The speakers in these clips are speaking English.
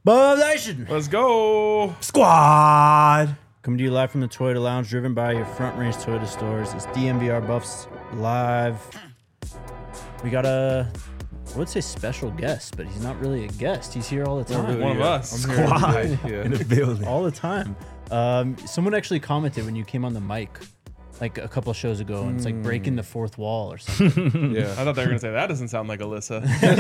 Bub Nation Let's go. Squad. coming to you live from the Toyota Lounge, driven by your Front Range Toyota stores. It's DMVR Buffs live. We got I would say special guest, but he's not really a guest. He's here all the time. One of us. I'm here Squad today. in the building. All the time. Someone actually commented when you came on the mic like a couple of shows ago, and it's like breaking the fourth wall or something. I thought they were gonna say that doesn't sound like Alyssa.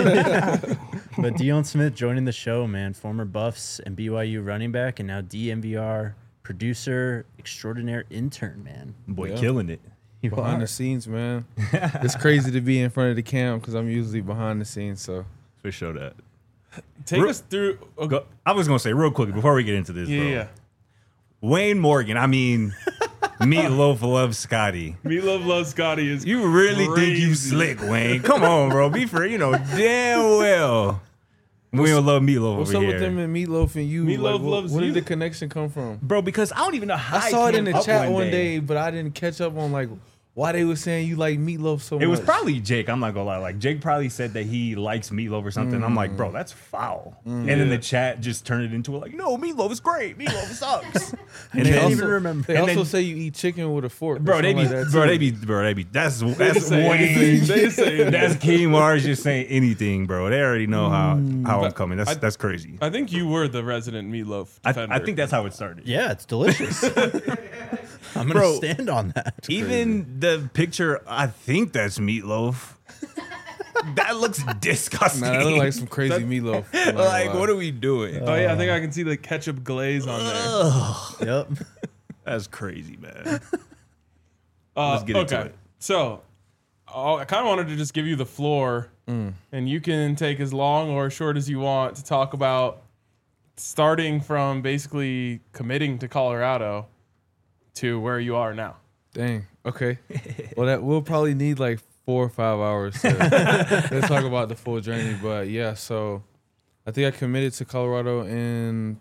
But Dion Smith joining the show, man. Former Buffs and BYU running back, and now DMVR producer, extraordinaire intern, man. Boy, Yeah. killing it. You Behind are. the scenes, man. It's crazy to be in front of the cam because I'm usually behind the scenes. So For sure that. Take us through. Oh, Go, I was going to say real quick before we get into this, bro. yeah. Wayne Morgan, I mean, Meatloaf loves Scotty. Meatloaf loves Scotty is. You really think you crazy. slick, Wayne? Come on, bro. Be fair. You know damn well we don't love Meatloaf what's over up here. with them and Meatloaf and you? Meatloaf Where loves did you. the connection come from? Bro, because I don't even know how I saw it in came the up chat one day, but I didn't catch up on like why they were saying you like Meatloaf so much. It was probably Jake. I'm not gonna lie. Like Jake probably said that he likes Meatloaf or something. I'm like, bro, that's foul. And then the chat just turned it into like, no, Meatloaf is great. Meatloaf sucks. And and they then, don't even remember. They and also then- say you eat chicken with a fork. or bro, they something be, like that, bro, too. they be. That's just say Wayne. anything. They just say anything. That's King Mars just saying anything, bro. They already know how I'm coming. That's crazy. I think you were the resident Meatloaf defender. I think that's how it started. Yeah, it's delicious. I'm gonna Bro, stand on that. Even the picture, I think that's Meatloaf. That looks disgusting. Man, that look like some crazy Meatloaf. I'm not Like, gonna what lie. are we doing? Oh yeah, I think I can see the ketchup glaze on there. Yep. That's crazy, man. Let's get into okay. it. So, I kind of wanted to just give you the floor, and you can take as long or as short as you want to talk about starting from basically committing to Colorado to where you are now. Dang. Okay. Well, that we'll probably need like 4 or 5 hours to talk about the full journey. But yeah, so I think I committed to Colorado in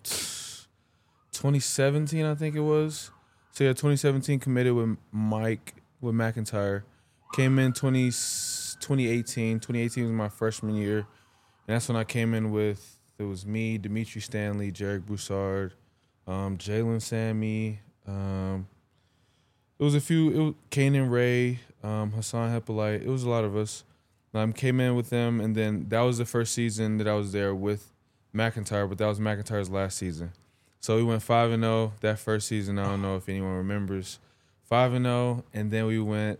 2017. I think it was. So yeah, 2017 committed with McIntyre. Came in 2018. 2018 was my freshman year, and that's when I came in with. It was me, Dimitri Stanley, Jarek Broussard, Jalen Sammy. It was a few. It was Kanan Ray, Hassan Hippolyte. It was a lot of us. Came in with them, and then that was the first season that I was there with McIntyre, but that was McIntyre's last season. So we went 5-0 that first season. I don't know if anyone remembers. 5-0, and then we went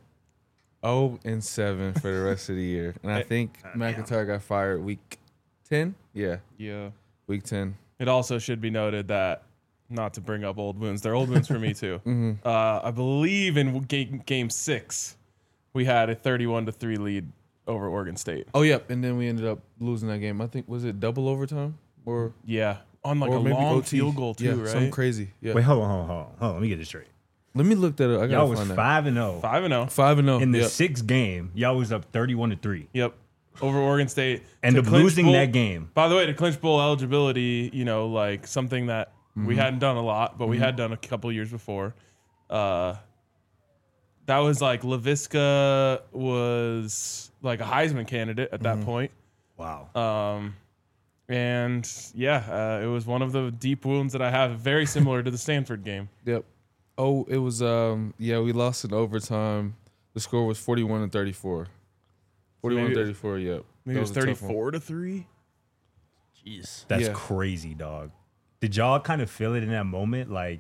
0-7 for the rest of the year. And I think McIntyre got fired week 10. Yeah, Yeah. week 10. It also should be noted that, not to bring up old wounds, they're old wounds for me too. I believe in game 6, we had a 31-3 lead over Oregon State. Oh, yep. And then we ended up losing that game. I think, was it double overtime? Or Yeah, on like or a maybe long OT. field goal too, Yeah, right? something crazy. Yeah. Wait, hold on. Let me get this straight. Let me look that up. I Y'all gotta was find that. 5-0. 5-0. 5-0. In the Yep. 6th game, y'all was up 31-3. Yep, over Oregon State. And To of clinch losing bowl- that game. By the way, to clinch bowl eligibility, like something that we hadn't done a lot, but we had done a couple years before. That was like LaVisca was like a Heisman candidate at that point. Wow. And yeah, it was one of the deep wounds that I have, very similar to the Stanford game. Yep. Oh, it was we lost in overtime. The score was 41-34. 41-34, yep. Maybe it was That a tough one. 34-3. Jeez. That's yeah. crazy, dog. Did y'all kind of feel it in that moment? Like,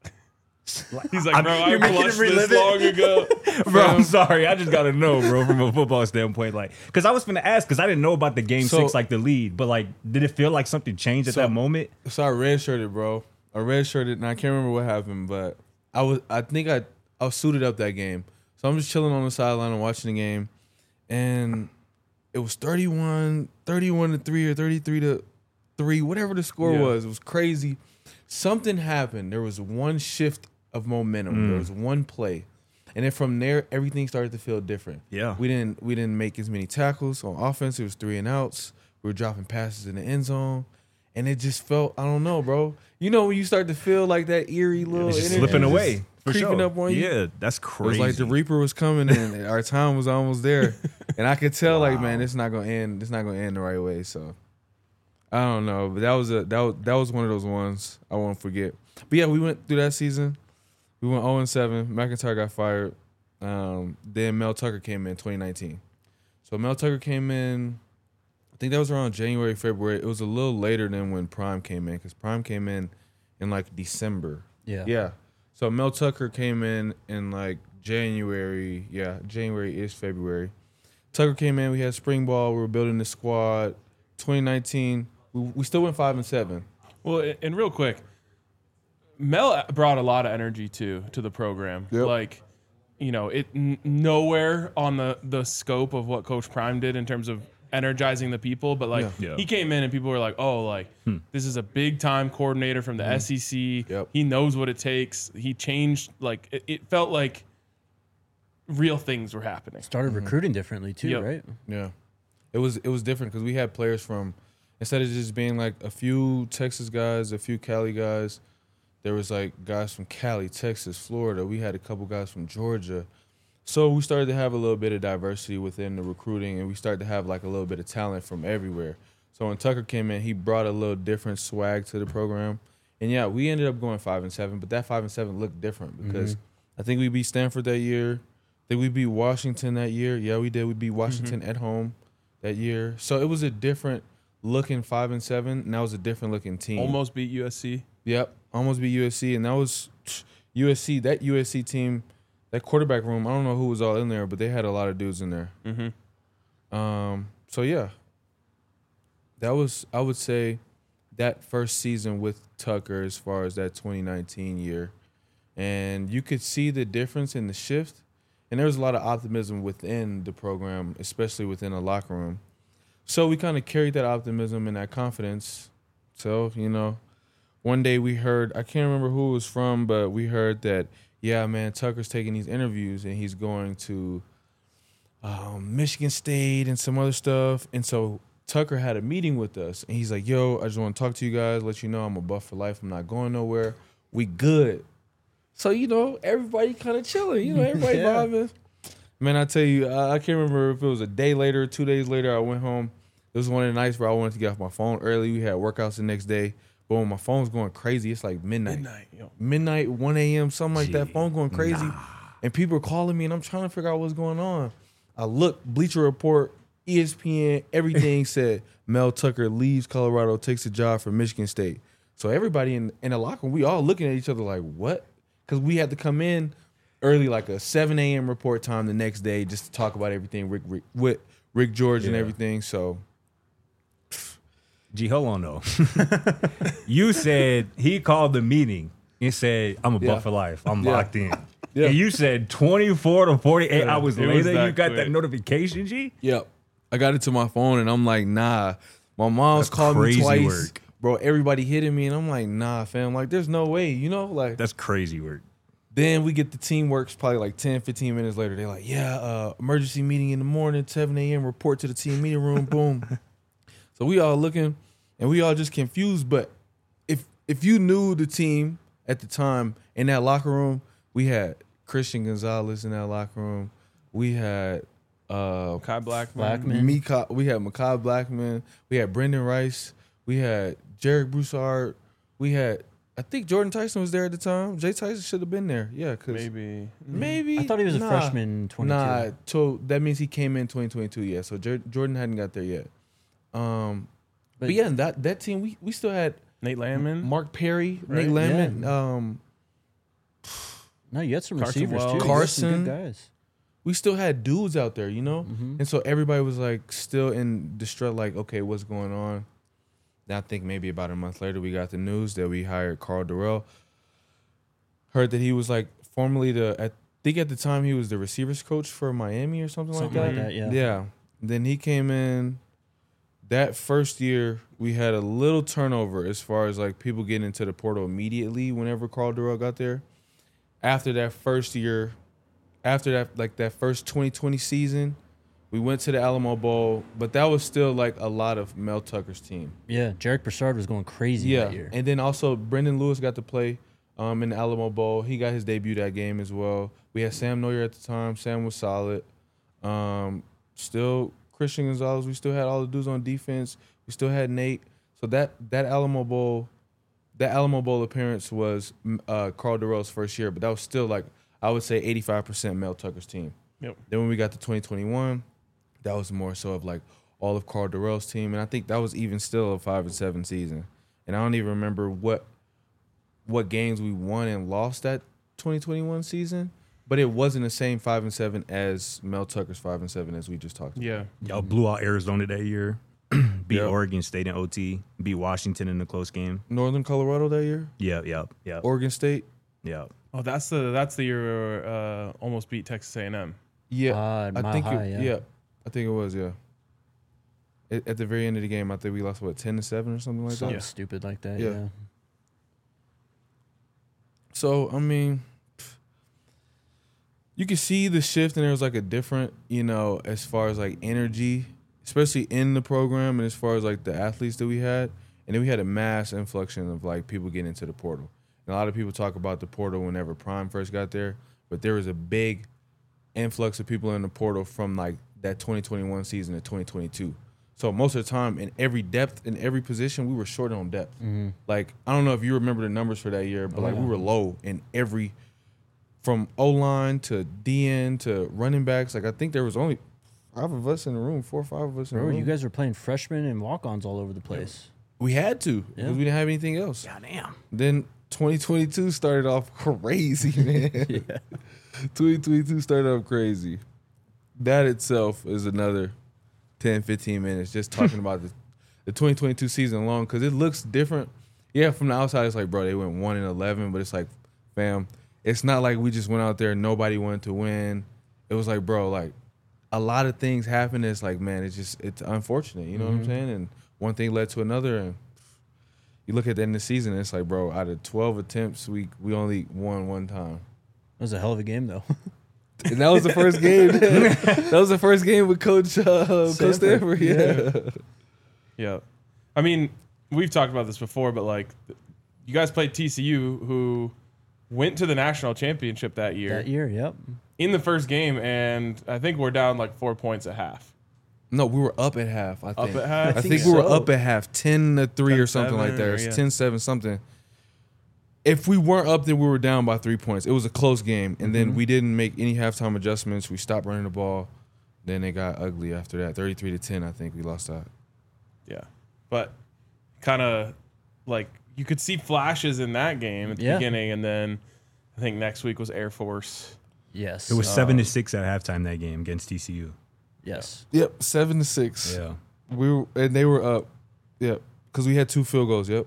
He's like, bro, I you're making clutched him relive this it. long ago. bro, I'm sorry. I just got to know, bro, from a football standpoint. Like, because I was going to ask, because I didn't know about the game So- 6, like the lead. But, like, did it feel like something changed at So- that moment? So I redshirted, bro. I redshirted, and I can't remember what happened, but I think I was suited up that game. So I'm just chilling on the sideline and watching the game, and it was 31-3 or 33-3, whatever the score Yeah. was. It was crazy. Something happened. There was one shift of momentum. There was one play, and then from there, everything started to feel different. Yeah. we didn't make as many tackles on offense. It was 3 and outs. We were dropping passes in the end zone. And it just felt, I don't know, bro. You know when you start to feel like that eerie little It's just energy slipping just away. For creeping sure. up on you. Yeah, that's It crazy. was like the Reaper was coming and our time was almost there. And I could tell, like, man, it's not gonna end the right way. So I don't know, but that was one of those ones I won't forget. But yeah, we went through that season. We went 0-7. McIntyre got fired. Then Mel Tucker came in 2019. So Mel Tucker came in, I think that was around January, February. It was a little later than when Prime came in, because Prime came in like December. Yeah. Yeah. So Mel Tucker came in like January. Yeah, January-ish, February. Tucker came in. We had spring ball. We were building the squad. 2019, we still went 5-7. Well, and real quick, Mel brought a lot of energy to the program. Yep. Like, you know, nowhere on the scope of what Coach Prime did in terms of energizing the people, but like Yeah. he came in and people were like, oh, like this is a big time coordinator from the SEC. Yep. He knows what it takes. He changed, like it felt like real things were happening. Started recruiting differently too, Yep. right? Yeah, it was different because we had players from, instead of just being like a few Texas guys, a few Cali guys, there was like guys from Cali, Texas, Florida. We had a couple guys from Georgia. So we started to have a little bit of diversity within the recruiting, and we started to have like a little bit of talent from everywhere. So when Tucker came in, he brought a little different swag to the program. And yeah, we ended up going 5-7, but that 5-7 looked different because I think we beat Stanford that year. I think we beat Washington that year. Yeah, we did. We beat Washington at home that year. So it was a different looking 5-7, and that was a different looking team. Almost beat USC. Yep, almost beat USC, and that was USC. That USC team, that quarterback room, I don't know who was all in there, but they had a lot of dudes in there. So yeah, that was, I would say, that first season with Tucker as far as that 2019 year, and you could see the difference in the shift, and there was a lot of optimism within the program, especially within the locker room. So we kind of carried that optimism and that confidence. So, you know, one day we heard, I can't remember who it was from, but we heard that, yeah, man, Tucker's taking these interviews and he's going to Michigan State and some other stuff. And so Tucker had a meeting with us, and he's like, yo, I just want to talk to you guys, let you know I'm a Buff for life. I'm not going nowhere. We good. So, you know, everybody kind of chilling. You know, everybody vibing. Man, I tell you, I can't remember if it was a day later, 2 days later, I went home. It was one of the nights where I wanted to get off my phone early. We had workouts the next day. But when my phone's going crazy, it's like midnight. Midnight, 1 a.m., something like that. Phone going crazy. And people are calling me, and I'm trying to figure out what's going on. I look, Bleacher Report, ESPN, everything said Mel Tucker leaves Colorado, takes a job for Michigan State. So everybody in the locker room, we all looking at each other like, what? Because we had to come in early, like a 7 a.m. report time the next day just to talk about everything with Rick George and everything. So, G, hold on though. You said he called the meeting and said, I'm a Buff for life. I'm locked in. Yeah. And you said 24 to 48 hours it was later, that you got quick. that notification, G? yep. I got it to my phone, and I'm like, nah. My mom's That's called me crazy twice. work. Bro, everybody hitting me, and I'm like, nah, fam. Like, there's no way, you know? Like, That's crazy work. then we get the teamworks probably like 10, 15 minutes later. They're like, yeah, emergency meeting in the morning, 7 a.m., report to the team meeting room, boom. So we all looking, and we all just confused. But if you knew the team at the time in that locker room, we had Christian Gonzalez in that locker room. We had Kai Blackman. we had Makai Blackman. We had Brendan Rice. We had Jarek Broussard. We had, I think Jordan Tyson was there at the time. Jay Tyson should have been there. Yeah, because maybe. I thought he was a freshman in 22. Nah, so that means he came in 2022. Yeah, so Jordan hadn't got there yet. But yeah, that team we still had Nate Landman. Mark Perry, Right. Nate Landman. No, you had some Carson receivers Wells. too. You had some Carson. good guys. We still had dudes out there, you know? And so everybody was like still in distress, like, okay, what's going on? Then I think maybe about a month later we got the news that we hired Carl Durrell. Heard that he was like formerly I think at the time he was the receivers coach for Miami or something like Something that. like that, yeah. Yeah. Then he came in. That first year we had a little turnover as far as like people getting into the portal immediately whenever Carl Durrell got there. After that first year, after that, like that first 2020 season, we went to the Alamo Bowl, but that was still like a lot of Mel Tucker's team. Yeah, Jarek Broussard was going crazy that year. And then also Brendan Lewis got to play in the Alamo Bowl. He got his debut that game as well. We had Sam Neuer at the time. Sam was solid. Still Christian Gonzalez. We still had all the dudes on defense. We still had Nate. So that Alamo Bowl appearance was Carl Durrell's first year, but that was still like I would say 85% Mel Tucker's team. Yep. Then when we got to 2021, that was more so of like all of Carl Durrell's team, and I think that was even still a 5-7 season. And I don't even remember what games we won and lost that 2021 season, but it wasn't the same 5-7 as Mel Tucker's 5-7 as we just talked about. Yeah. Y'all blew out Arizona that year. Beat Oregon State in OT. Beat Washington in a close game. Northern Colorado that year, Yeah. Oregon State. Yeah. Oh, that's the year we almost beat Texas A&M. Yeah, Mile I think High, yeah. I think it was. Yeah. At the very end of the game, I think we lost 10-7 or something like Something that. stupid like that. Yeah. Yeah. So I mean, you can see the shift, and there was like a different, as far as like energy, especially in the program, and as far as like the athletes that we had, and then we had a mass influx of like people getting into the portal. And a lot of people talk about the portal whenever Prime first got there, but there was a big influx of people in the portal from like that 2021 season to 2022. So most of the time, in every depth, in every position, we were short on depth. Mm-hmm. Like, I don't know if you remember the numbers for that year, but we were low in every, from O-line to DN to running backs. Like, I think there was only 5 of us in the room, 4 or 5 of us in the Remember, room. you guys were playing freshmen and walk-ons all over the place. We had to, because Yeah. we didn't have anything else. Goddamn. Then 2022 started off crazy, man. 2022 started off crazy. That itself is another 10, 15 minutes just talking about the 2022 season alone, because it looks different. Yeah, from the outside, it's like, bro, they went 1-11, but it's like, fam, it's not like we just went out there and nobody wanted to win. It was like, bro, like, a lot of things happened. It's like, man, it's unfortunate. You know what I'm saying? And one thing led to another, and you look at the end of the season, and it's like, bro, out of 12 attempts, we only won one time. It was a hell of a game, though. And that was the first game. That was the first game with Coach Stanford. Yeah. Yeah. I mean, we've talked about this before, but like, you guys played TCU, who went to the national championship that year. That year, yep. In the first game, and I think we're down like 4 points at half. No, we were up at half, I think. Up at half? I I think think we were so. up at half, 10-3 or something like that. 10-7 Or or, yeah. 10-7 something. If we weren't up, then we were down by 3 points. It was a close game. And then we didn't make any halftime adjustments. We stopped running the ball. Then it got ugly after that. 33-10, I think we lost that. Yeah. But kind of like you could see flashes in that game at the Yeah. beginning, and then I think next week was Air Force. Yes. It was 7-6 at halftime that game against TCU. Yes. Yep, 7-6. Yeah. And they were up. Yep, because we had 2 field goals. Yep,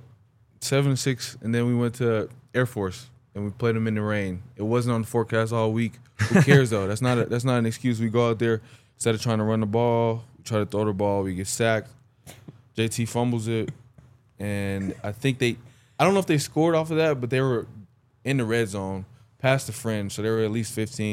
7-6, and then we went to Air Force and we played them in the rain. It wasn't on the forecast all week. Who cares though? That's not an excuse. We go out there instead of trying to run the ball, we try to throw the ball. We get sacked. JT fumbles it, and I don't know if they scored off of that, but they were in the red zone, past the fringe, so they were at least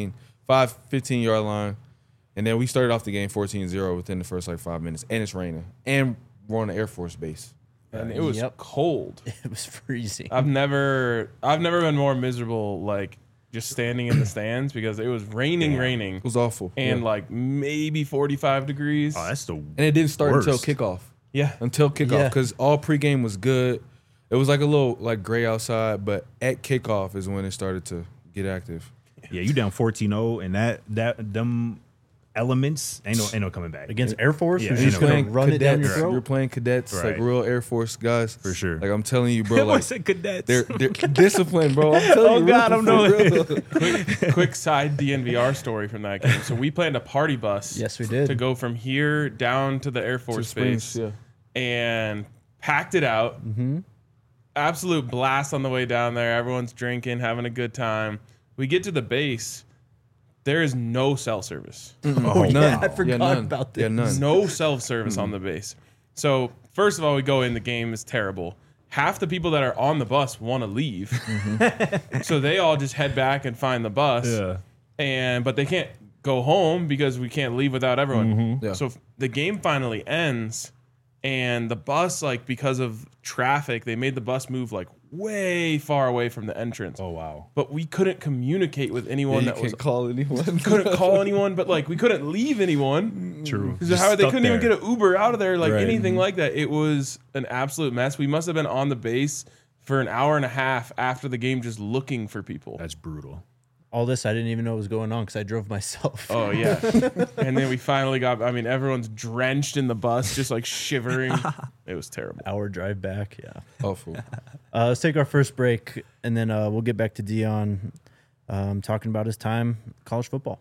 15-yard line. And then we started off the game 14-0 within the first 5 minutes, and it's raining, and we're on the Air Force base. And it was Yep. cold. It was freezing. I've never been more miserable, like just standing in the stands, because it was raining, It was awful, and yeah. like maybe 45 degrees. Oh, that's the And it didn't start until worst. kickoff. Yeah. Until kickoff, Yeah. because all pregame was good. It was like a little gray outside, but at kickoff is when it started to get active. Yeah, you down 14-0, and them elements ain't no coming back. Against Air Force, Yeah, who's you just know, going to run it down your cadets. throat. You're playing cadets, like Right. real Air Force guys. For sure. Like, I'm telling you, bro, I like, said cadets. they're disciplined, bro. I'm telling you. God, I'm knowing. Quick side DNVR story from that game. So we planned a party bus. Yes, we did. To go from here down to the Air Force Springs, base, yeah. and packed it out. Mm-hmm. Absolute blast on the way down there. Everyone's drinking, having a good time. We get to the base. There is no cell service. Oh, yeah, None. I forgot none. about this. Yeah, none. No cell service on the base. So first of all, we go in. The game is terrible. Half the people that are on the bus want to leave, so they all just head back and find the bus. Yeah. But they can't go home because we can't leave without everyone. Yeah. So the game finally ends, And the bus, like, because of traffic, they made the bus move like way far away from the entrance. Oh wow. But we couldn't communicate with anyone that was call anyone. couldn't call anyone, but like we couldn't leave anyone. True. Because how they couldn't even get an Uber out of there, like Right. anything like that. It was an absolute mess. We must have been on the base for an hour and a half after the game, just looking for people. That's brutal. All this I didn't even know was going on because I drove myself. Oh yeah. And then we finally got. I mean, everyone's drenched in the bus, just like shivering. It was terrible. Hour drive back. Yeah. Awful. Let's take our first break, and then we'll get back to Dion talking about his time college football.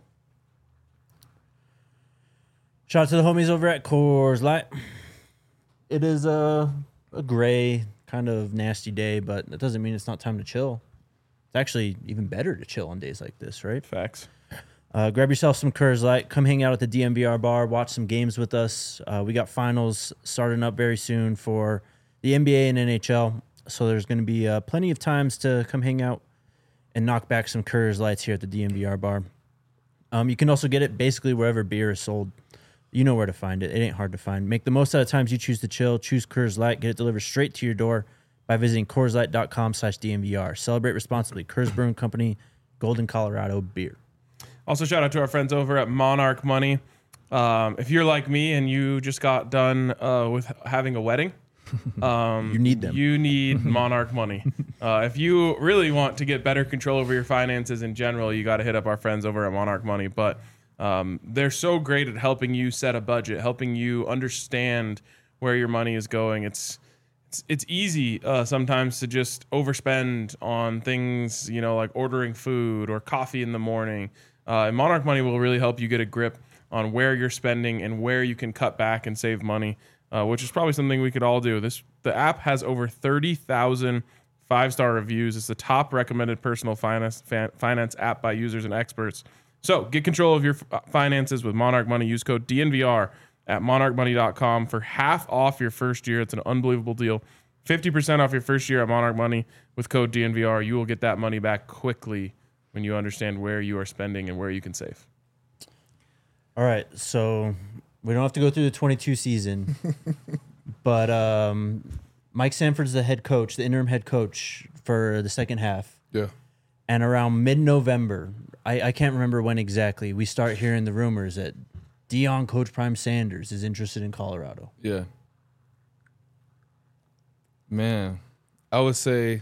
Shout out to the homies over at Coors Light. It is a gray, kind of nasty day, but that doesn't mean it's not time to chill. It's actually even better to chill on days like this, right? Facts. Grab yourself some Coors Light. Come hang out at the DMVR bar. Watch some games with us. We got finals starting up very soon for the NBA and NHL. So there's going to be plenty of times to come hang out and knock back some Coors Lights here at the DMVR bar. You can also get it basically wherever beer is sold. You know where to find it. It ain't hard to find. Make the most out of times you choose to chill. Choose Coors Light. Get it delivered straight to your door by visiting CoorsLight.com/DMVR. Celebrate responsibly. Coors Brewing Company, Golden, Colorado beer. Also, shout out to our friends over at Monarch Money. If you're like me and you just got done with having a wedding, You need them. You need Monarch Money. If you really want to get better control over your finances in general, you got to hit up our friends over at Monarch Money. But they're so great at helping you set a budget, helping you understand where your money is going. It's easy sometimes to just overspend on things, you know, like ordering food or coffee in the morning. And Monarch Money will really help you get a grip on where you're spending and where you can cut back and save money, which is probably something we could all do. The app has over 30,000 5-star reviews. It's the top recommended personal finance app by users and experts. So get control of your finances with Monarch Money. Use code DNVR at monarchmoney.com for half off your first year. It's an unbelievable deal. 50% off your first year at Monarch Money with code DNVR. You will get that money back quickly when you understand where you are spending and where you can save. All right, so we don't have to go through the 22 season, but Mike Sanford's the head coach, the interim head coach for the second half. Yeah. And around mid-November, I can't remember when exactly, we start hearing the rumors that Dion Coach Prime Sanders is interested in Colorado. Yeah. Man, I would say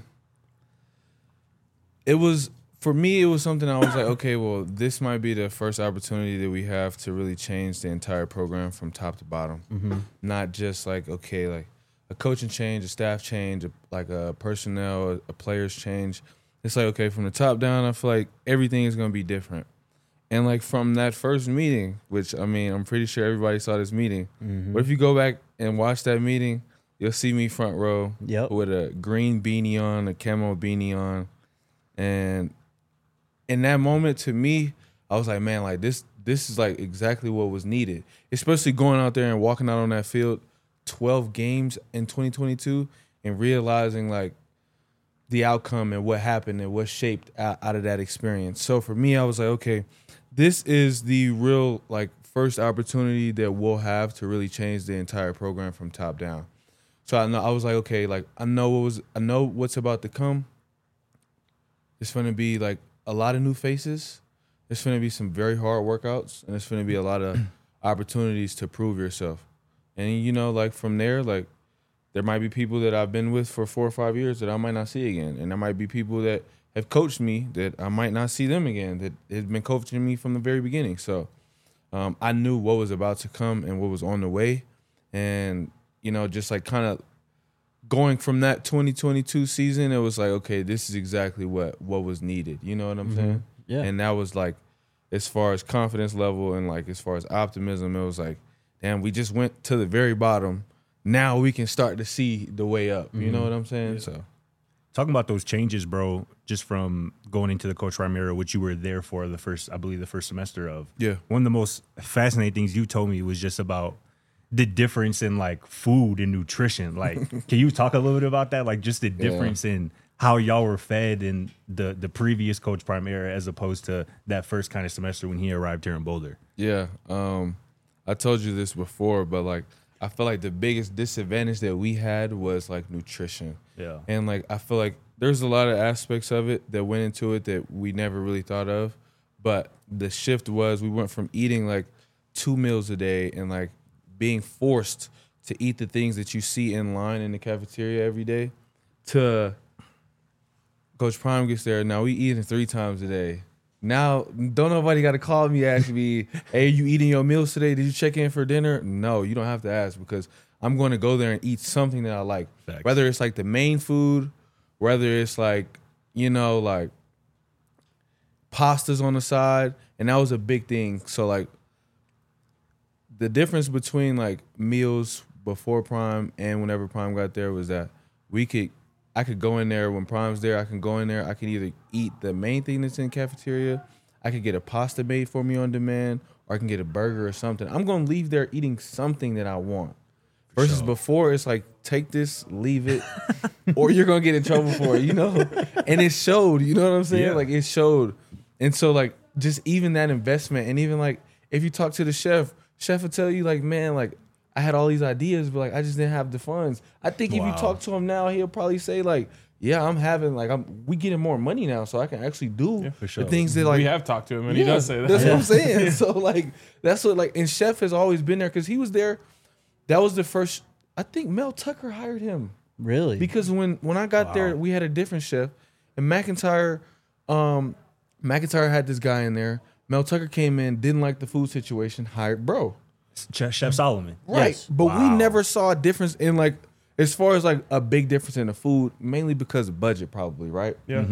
it was, for me, it was something I was like, okay, well, this might be the first opportunity that we have to really change the entire program from top to bottom. Mm-hmm. Not just like, okay, like a coaching change, a staff change, like a personnel, a players change. It's like, okay, from the top down, I feel like everything is going to be different. And like from that first meeting, which I mean, I'm pretty sure everybody saw this meeting. Mm-hmm. But if you go back and watch that meeting, you'll see me front row with a green beanie on, a camo beanie on. And in that moment, to me, I was like, man, like this is like exactly what was needed. Especially going out there and walking out on that field 12 games in 2022 and realizing like the outcome and what happened and what shaped out of that experience. So for me, I was like, okay, this is the real like first opportunity that we'll have to really change the entire program from top down. So I was like, okay, like I know what's about to come. It's going to be like a lot of new faces. There's going to be some very hard workouts, and there's going to be a lot of opportunities to prove yourself. And you know, like from there, like there might be people that I've been with for 4 or 5 years that I might not see again, and there might be people that have coached me that I might not see them again, that have been coaching me from the very beginning. So I knew what was about to come and what was on the way, and you know, just like kind of going from that 2022 season, it was like, okay, this is exactly what was needed. You know what I'm saying? Yeah. And that was like, as far as confidence level and like as far as optimism, it was like, damn, we just went to the very bottom. Now we can start to see the way up. You know what I'm saying? So Talking about those changes, bro, just from going into the Coach Prime era, which you were there for the first semester of. Yeah. One of the most fascinating things you told me was just about the difference in like food and nutrition. Like, can you talk a little bit about that? Like just the difference in how y'all were fed in the previous Coach Prime era as opposed to that first kind of semester when he arrived here in Boulder. yeah, I told you this before, but like I feel like the biggest disadvantage that we had was like nutrition. Yeah. And like I feel like there's a lot of aspects of it that went into it that we never really thought of. But the shift was we went from eating like 2 meals a day and like being forced to eat the things that you see in line in the cafeteria every day to Coach Prime gets there. Now we eating 3 times a day. Now, don't nobody got to call me, ask me, hey, you eating your meals today? Did you check in for dinner? No, you don't have to ask because I'm going to go there and eat something that I like. Facts. Whether it's like the main food, whether it's like, you know, like pastas on the side. And that was a big thing. So like the difference between like meals before Prime and whenever Prime got there was that I could go in there when Prime's there. I can go in there. I can either eat the main thing that's in the cafeteria. I could get a pasta made for me on demand, or I can get a burger or something. I'm going to leave there eating something that I want. Versus Sure. before, it's like, take this, leave it, or you're going to get in trouble for it, you know? And it showed, you know what I'm saying? Yeah. Like, it showed. And so, like, just even that investment, and even, like, if you talk to the chef will tell you, like, man, like, I had all these ideas, but like I just didn't have the funds. I think if you Wow. talk to him now, he'll probably say like, "Yeah, we getting more money now, so I can actually do for sure. the things that like we have talked to him, and he Yeah, does say that. That's what I'm saying. So like that's what like and Chef has always been there because he was there. That was the first. I think Mel Tucker hired him Really? because when I got there, we had a different chef, and McIntyre had this guy in there. Mel Tucker came in, didn't like the food situation, hired Bro. Chef Solomon. Right. Yes. But we Wow. never saw a difference in like as far as like a big difference in the food, mainly because of budget probably, right? Yeah.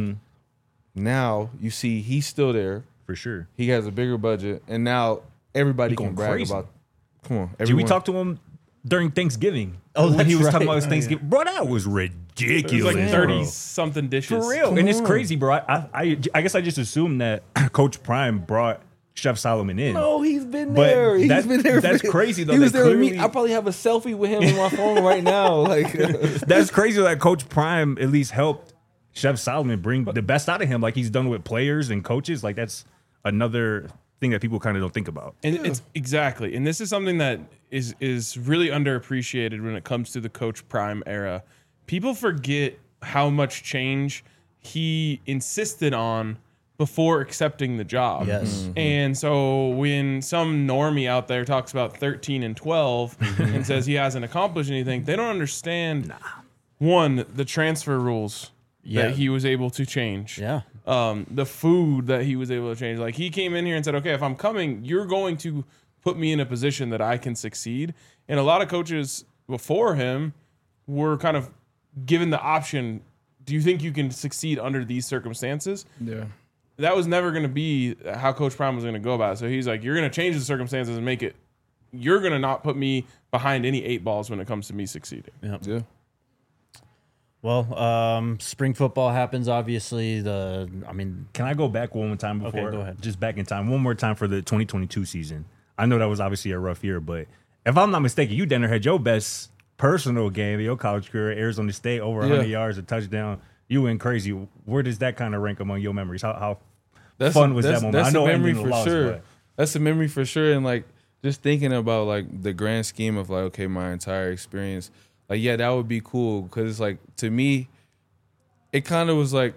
Now you see he's still there. For sure. He has a bigger budget and now everybody He can going brag crazy. about come on. Did we everyone- talk to him during Thanksgiving? Oh, when he was that's talking right. about his Thanksgiving. Bro, that was It ridiculous. was like Yeah. 30 bro. something dishes. For real. Come And it's on. crazy, bro. I guess I just assumed that Coach Prime brought Chef Solomon in. No, he's been But there. He's that- been there. that's crazy, though. He was That there with me. clearly- I probably have a selfie with him on my phone right now. Like That's crazy that Coach Prime at least helped Chef Solomon bring the best out of him like he's done with players and coaches. Like that's another thing that people kind of don't think about. And it's exactly, and this is something that is really underappreciated when it comes to the Coach Prime era. People forget how much change he insisted on before accepting the job. Yes. And so when some normie out there talks about 13 and 12 and says he hasn't accomplished anything, they don't understand one, the transfer rules Yeah. that he was able to change. Yeah. The food that he was able to change. Like he came in here and said, okay, if I'm coming, you're going to put me in a position that I can succeed. And a lot of coaches before him were kind of given the option, do you think you can succeed under these circumstances? yeah. That was never going to be how Coach Prime was going to go about it. So he's like, you're going to change the circumstances and make it, you're going to not put me behind any 8 balls when it comes to me succeeding. Yeah. Well, spring football happens. Obviously, Can I go back one more time before? Okay, go ahead. Just back in time, one more time for the 2022 season. I know that was obviously a rough year, but if I'm not mistaken, you Denner had your best personal game of your college career, Arizona State, over 100 yards, a touchdown. You went crazy. Where does that kind of rank among your memories? How fun was that moment? That's I know a memory ending for the loss, sure. but- That's a memory for sure. And like just thinking about like the grand scheme of like, okay, my entire experience, like, yeah, that would be cool. Cause it's like, to me, it kind of was like,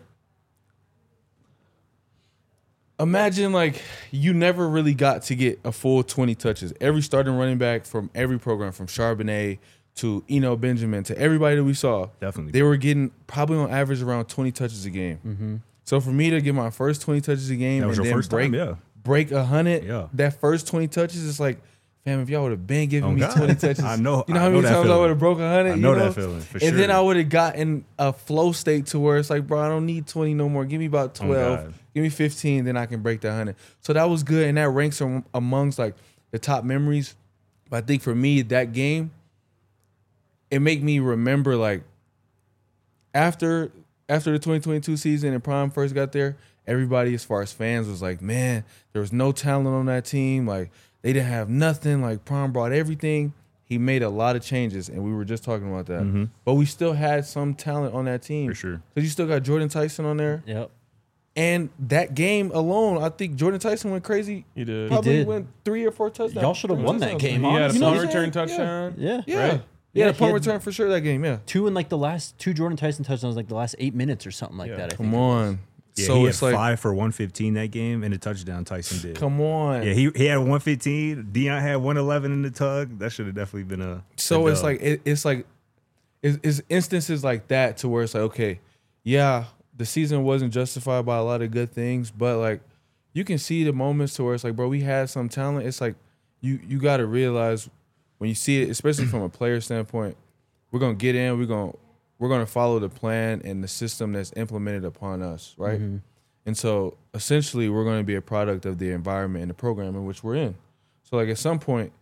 imagine like you never really got to get a full 20 touches. Every starting running back from every program, from Charbonnet to Eno Benjamin to everybody that we saw, Definitely. they were getting probably on average around 20 touches a game. So for me to get my first 20 touches a game That was and your then first time, yeah. break 100, Yeah. that first 20 touches is like, fam, if y'all would have been giving Oh, me God. 20 touches, I know- you know I how know many that times I feeling. would have broke 100? I you know that feeling, for And then sure. I would have gotten a flow state to where it's like, bro, I don't need 20 no more. Give me about 12. God. Give me 15, then I can break that 100. So that was good, and that ranks amongst like the top memories. But I think for me, that game, it made me remember like after the 2022 season and Prime first got there, everybody as far as fans was like, man, there was no talent on that team. Like they didn't have nothing. Like Prime brought everything. He made a lot of changes, and we were just talking about that. But we still had some talent on that team. For sure. Because you still got Jordan Tyson on there. Yep. And that game alone, I think Jordan Tyson went crazy. He did. Probably did. went 3 or 4 touchdowns. Y'all should have won that game. He had a honestly. punt what I'm return saying? touchdown. Yeah. Yeah. Right? Yeah, Yeah, a punt he had- return for sure that game. Yeah. Two in like the last two Jordan Tyson touchdowns, like the last 8 minutes or something like Yeah. that. I think. Come on. Yeah, So he it's had like, 5 for 115 that game and a touchdown. Tyson did. come on. Yeah, he had 115. Deion had 111 in the tug. That should have definitely been a. So a it's dub. like it's instances like that to where it's like, okay, yeah, the season wasn't justified by a lot of good things, but like you can see the moments to where it's like, bro, we had some talent. It's like you got to realize when you see it, especially from a player standpoint, we're gonna get in, we're gonna follow the plan and the system that's implemented upon us, right? And so essentially, we're gonna be a product of the environment and the program in which we're in. So like at some point,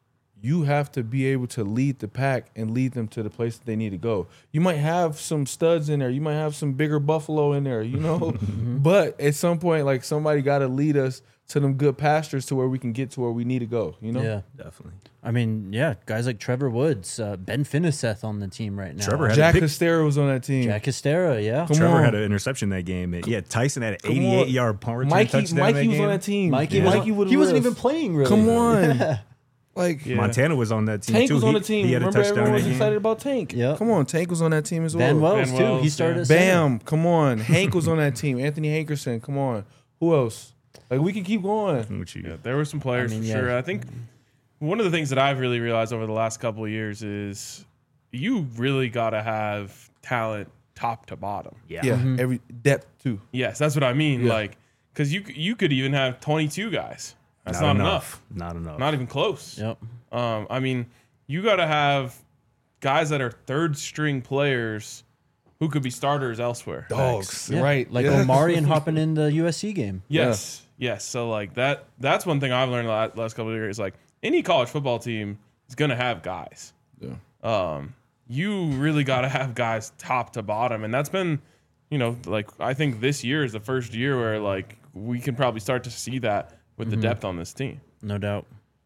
you have to be able to lead the pack and lead them to the place that they need to go. You might have some studs in there. You might have some bigger buffalo in there, you know? But at some point, like somebody got to lead us to them good pastures to where we can get to where we need to go, you know? Yeah. definitely. I mean, yeah, guys like Trevor Woods, Ben Finiseth on the team right now. Trevor had Jack a pick. Hystera was on that team. Jack Hystera, yeah. Come Trevor on. had an interception that game. And, yeah, Tyson had an Come on. 88-yard punt return touchdown Mikey that was game. on that team. Mikey, would he wasn't even playing really. Come on. Like, Yeah. Montana was on that team Tank too. was on He- the team. He had a Remember, touchdown everyone that was game. excited about Tank. Yep. Come on, Tank was on that team as well. Van Wells, Van too. He Wells, started yeah. at center. Bam, come on. Hank was on that team. Anthony Hankerson, come on. Who else? Like, we can keep going. Which you- Yeah, there were some players I mean, for yeah. sure. I think one of the things that I've really realized over the last couple of years is you really got to have talent top to bottom. Yeah, every depth, too. Yes, that's what I mean. Yeah. Like, because you could even have 22 guys. That's not not enough. enough. Not enough. Not even close. Yep. I mean, you got to have guys that are third string players who could be starters elsewhere. Dogs, Yeah. right. Like yeah. Omarion hopping in the USC game. Yes. Yes. So like that's one thing I've learned the last couple of years. Like any college football team is gonna have guys. Yeah. You really got to have guys top to bottom, and that's been, like I think this year is the first year where like we can probably start to see that with the depth on this team. No doubt.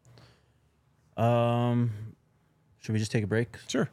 Should we just take a break? Sure.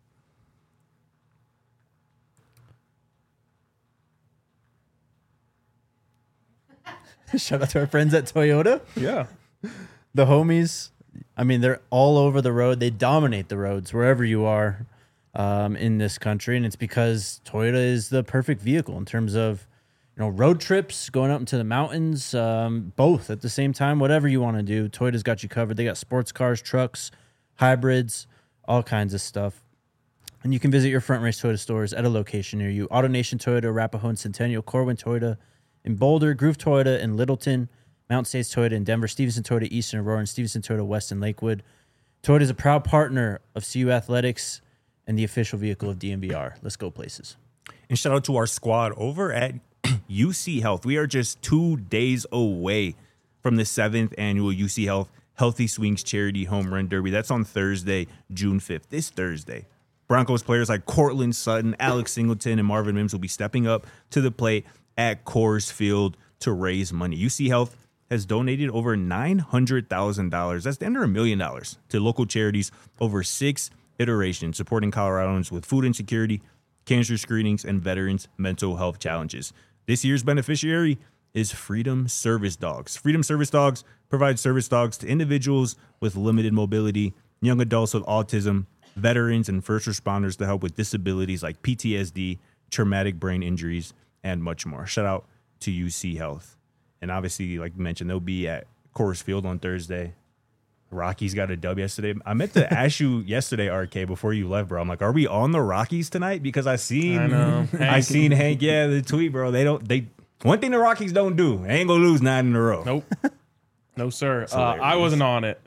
Shout out to our friends at Toyota. Yeah. The homies, I mean, they're all over the road. They dominate the roads wherever you are in this country. And it's because Toyota is the perfect vehicle in terms of, road trips, going up into the mountains, both at the same time, whatever you want to do. Toyota's got you covered. They got sports cars, trucks, hybrids, all kinds of stuff. And you can visit your Front Range Toyota stores at a location near you. AutoNation Toyota, Arapahoe and Centennial, Corwin Toyota in Boulder, Groove Toyota in Littleton, Mountain States Toyota in Denver, Stevenson Toyota East in Aurora, and Stevenson Toyota West in Lakewood. Toyota is a proud partner of CU Athletics and the official vehicle of DMVR. Let's go places. And shout out to our squad over at UC Health. We are just 2 days away from the 7th annual UC Health Healthy Swings Charity Home Run Derby. That's on Thursday, June 5th, this Thursday. Broncos players like Cortland Sutton, Alex Singleton, and Marvin Mims will be stepping up to the plate at Coors Field to raise money. UC Health has donated over $900,000. That's under $1 million to local charities over 6 iterations, supporting Coloradans with food insecurity, cancer screenings, and veterans' mental health challenges. This year's beneficiary is Freedom Service Dogs. Freedom Service Dogs provide service dogs to individuals with limited mobility, young adults with autism, veterans, and first responders to help with disabilities like PTSD, traumatic brain injuries, and much more. Shout out to UC Health. And obviously, like you mentioned, they'll be at Coors Field on Thursday. Rockies got a dub yesterday. I meant to ask you yesterday, RK, before you left, bro. I'm like, are we on the Rockies tonight? Because I know. I seen Hank, the tweet, bro. One thing the Rockies don't do, they ain't gonna lose 9 in a row. Nope. No, sir. hilarious. I wasn't on it.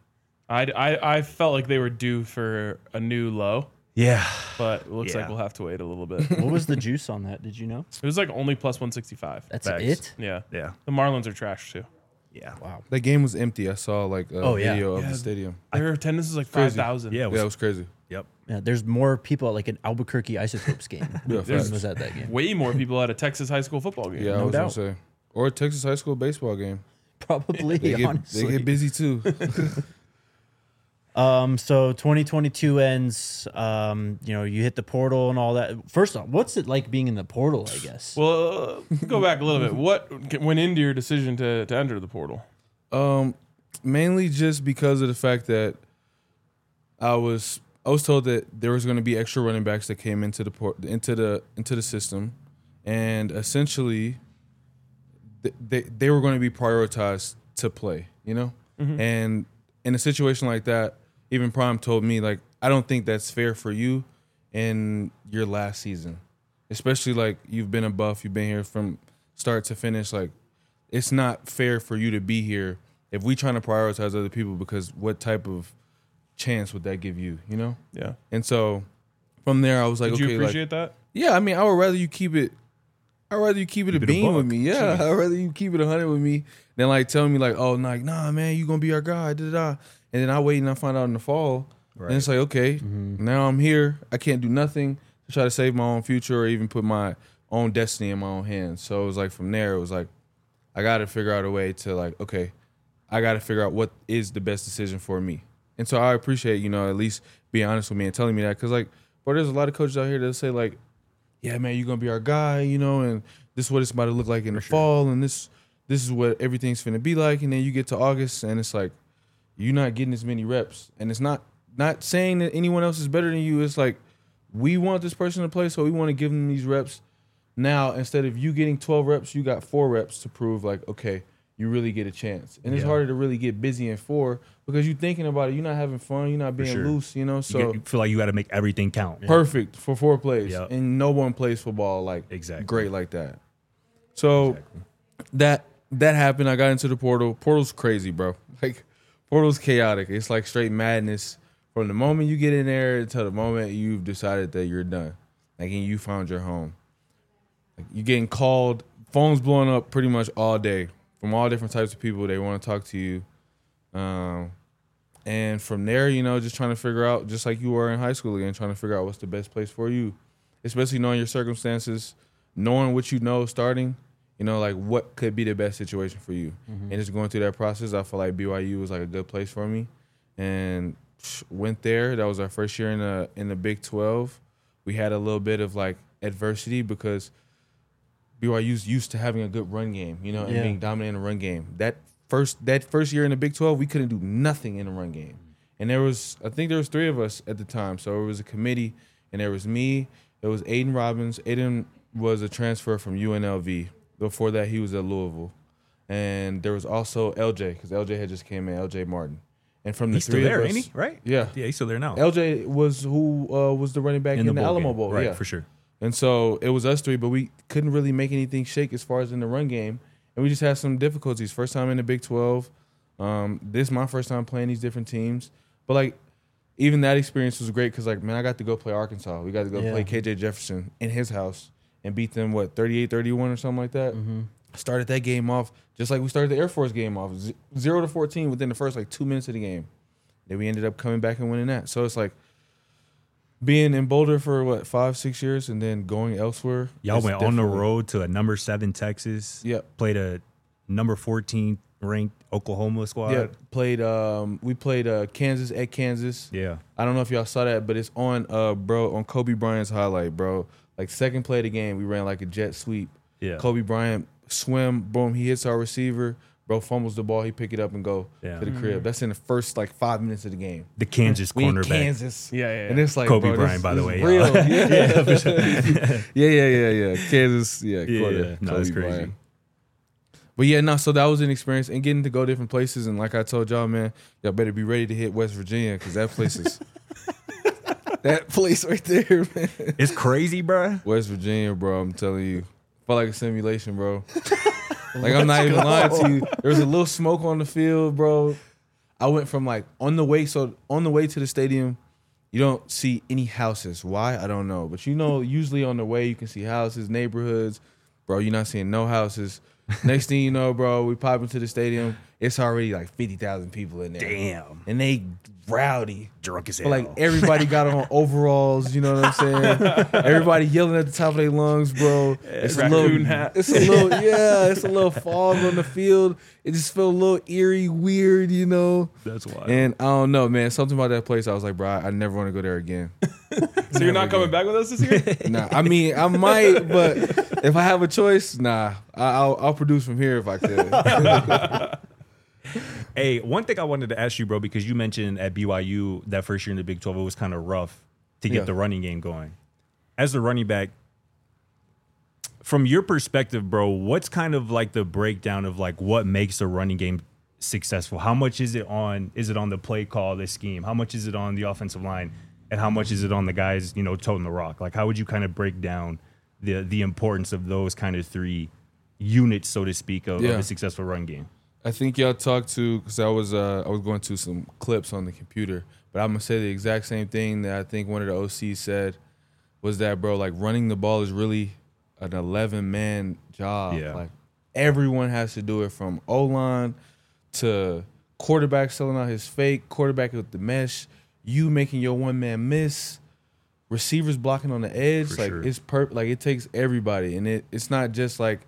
I felt like they were due for a new low, Yeah. but it looks like Yeah. we'll have to wait a little bit. What was the juice on that? Did you know? It was like only plus 165. That's Facts. it? Yeah. Yeah. The Marlins are trash too. Yeah. Wow. That game was empty. I saw like a video of Yeah. the stadium. Their attendance is like Crazy. 5,000. Yeah. Yeah, it was crazy. Yep. Yeah, there's more people at like an Albuquerque Isotopes game Yeah, than facts. was at that game. Way more people at a Texas high school football game. Yeah, I No was doubt. gonna say. Or a Texas high school baseball game. Probably, They honestly. get busy too. So 2022 ends. You hit the portal and all that. First off, what's it like being in the portal? I guess. Well, go back a little bit. What went into your decision to enter the portal? Mainly just because of the fact that I was told that there was going to be extra running backs that came into the system, and essentially they were going to be prioritized to play. And in a situation like that, even Prime told me, like, I don't think that's fair for you in your last season, especially like you've been a Buff, you've been here from start to finish. Like, it's not fair for you to be here if we trying to prioritize other people, because what type of chance would that give you, Yeah. And so from there, I was like, Did okay, you appreciate that? yeah, I mean, I would rather you keep it. I'd rather you keep it a bean with me. Yeah, I'd rather you keep it 100 with me than like telling me like, oh, nah, man, you gonna be our guy, da. And then I wait and I find out in the fall, and it's like, okay, now I'm here. I can't do nothing to try to save my own future or even put my own destiny in my own hands. So it was like from there, it was like, I got to figure out a way to like, okay, I got to figure out what is the best decision for me. And so I appreciate, at least being honest with me and telling me that, because like, but there's a lot of coaches out here that say like, yeah, man, you're gonna be our guy, and this is what it's about to look like in the fall, and this is what everything's finna be like. And then you get to August, and it's like you're not getting as many reps. And it's not saying that anyone else is better than you. It's like we want this person to play, so we want to give them these reps. Now, instead of you getting 12 reps, you got 4 reps to prove like, okay, you really get a chance. And it's harder to really get busy in 4 because you're thinking about it. You're not having fun. You're not being loose, So you feel like you got to make everything count. Perfect for 4 plays. Yep. And no one plays football like great like that. So that happened. I got into the portal. Portal's crazy, bro. Like, portal's chaotic. It's like straight madness from the moment you get in there until the moment you've decided that you're done. Like, and you found your home. Like, you're getting called, phones blowing up pretty much all day from all different types of people. They want to talk to you. And from there, just trying to figure out, just like you were in high school again, trying to figure out what's the best place for you, especially knowing your circumstances, knowing what you know starting, like what could be the best situation for you. And just going through that process, I feel like BYU was like a good place for me. And went there. That was our first year in the Big 12. We had a little bit of like adversity because BYU's used to having a good run game, and being dominant in the run game. That first year in the Big 12, we couldn't do nothing in the run game. And I think there was 3 of us at the time. So it was a committee, and there was me, there was Aiden Robbins. Aiden was a transfer from UNLV. Before that, he was at Louisville. And there was also LJ, because LJ had just came in, LJ Martin. And from the he's 3 still there, of us, ain't he? Right? Yeah. Yeah, he's still there now. LJ was who was the running back in the Alamo Bowl. Right, yeah. for sure. And so it was us 3, but we couldn't really make anything shake as far as in the run game. And we just had some difficulties. First time in the Big 12. This is my first time playing these different teams. But, like, even that experience was great because, like, man, I got to go play Arkansas. We got to go play KJ Jefferson in his house and beat them, 38-31 or something like that. Started that game off just like we started the Air Force game off, 0-14 within the first, 2 minutes of the game. Then we ended up coming back and winning that. So it's like, being in Boulder for 5-6 years and then going elsewhere. Y'all went on the road to a number 7 Texas. Yep. Played a number 14 ranked Oklahoma squad. Yeah. We played Kansas at Kansas. Yeah. I don't know if y'all saw that, but it's on on Kobe Bryant's highlight, bro. Like, second play of the game, we ran like a jet sweep. Yeah. Kobe Bryant swim, boom, he hits our receiver. Bro fumbles the ball, he pick it up and go to the crib. That's in the first 5 minutes of the game. The Kansas We in cornerback. Kansas. Yeah. And it's like, Kobe bro, Bryant, by the way, real. y'all. Yeah. For sure. Yeah. Kansas, Yeah. No, Kobe it's crazy. Bryant. But yeah, no, so that was an experience. And getting to go different places. And like I told y'all, man, y'all better be ready to hit West Virginia because that place is that place right there, man. It's crazy, bro. West Virginia, bro, I'm telling you. Felt like a simulation, bro. Like, I'm not even lying to you. There was a little smoke on the field, bro. I went from on the way to the stadium, you don't see any houses. Why? I don't know. But usually on the way you can see houses, neighborhoods. Bro, you're not seeing no houses. Next thing you know, bro, we pop into the stadium. It's already like 50,000 people in there. Damn. And they rowdy. Drunk as But hell. like everybody got on overalls, you know what I'm saying? Everybody yelling at the top of their lungs, bro. It's a Raccoon little, hat. it's a little, yeah, it's a little fog on the field. It just felt a little eerie, weird, you know. That's wild. And I don't know, man. Something about that place, I was like, bro, I never want to go there again. So you're not coming back with us this year? Nah, I mean, I might, but if I have a choice, nah, I'll produce from here if I could. Hey, one thing I wanted to ask you, bro, because you mentioned at BYU that first year in the Big 12, it was kind of rough to get Yeah. the running game going. As a running back, from your perspective, bro, what's kind of like the breakdown of like what makes a running game successful? How much is it on the play call, the scheme? How much is it on the offensive line? And how much is it on the guys, you know, toting the rock? Like, how would you kind of break down the importance of those kind of three units, so to speak, of a successful run game? I think y'all talked to, because I was going to some clips on the computer, but I'm gonna say the exact same thing that I think one of the OCs said was that, bro, like running the ball is really an 11-man job. Yeah. Like everyone has to do it, from O-line to quarterback selling out his fake, quarterback with the mesh, you making your one-man miss, receivers blocking on the edge. For like sure. it's like it takes everybody, and it's not just like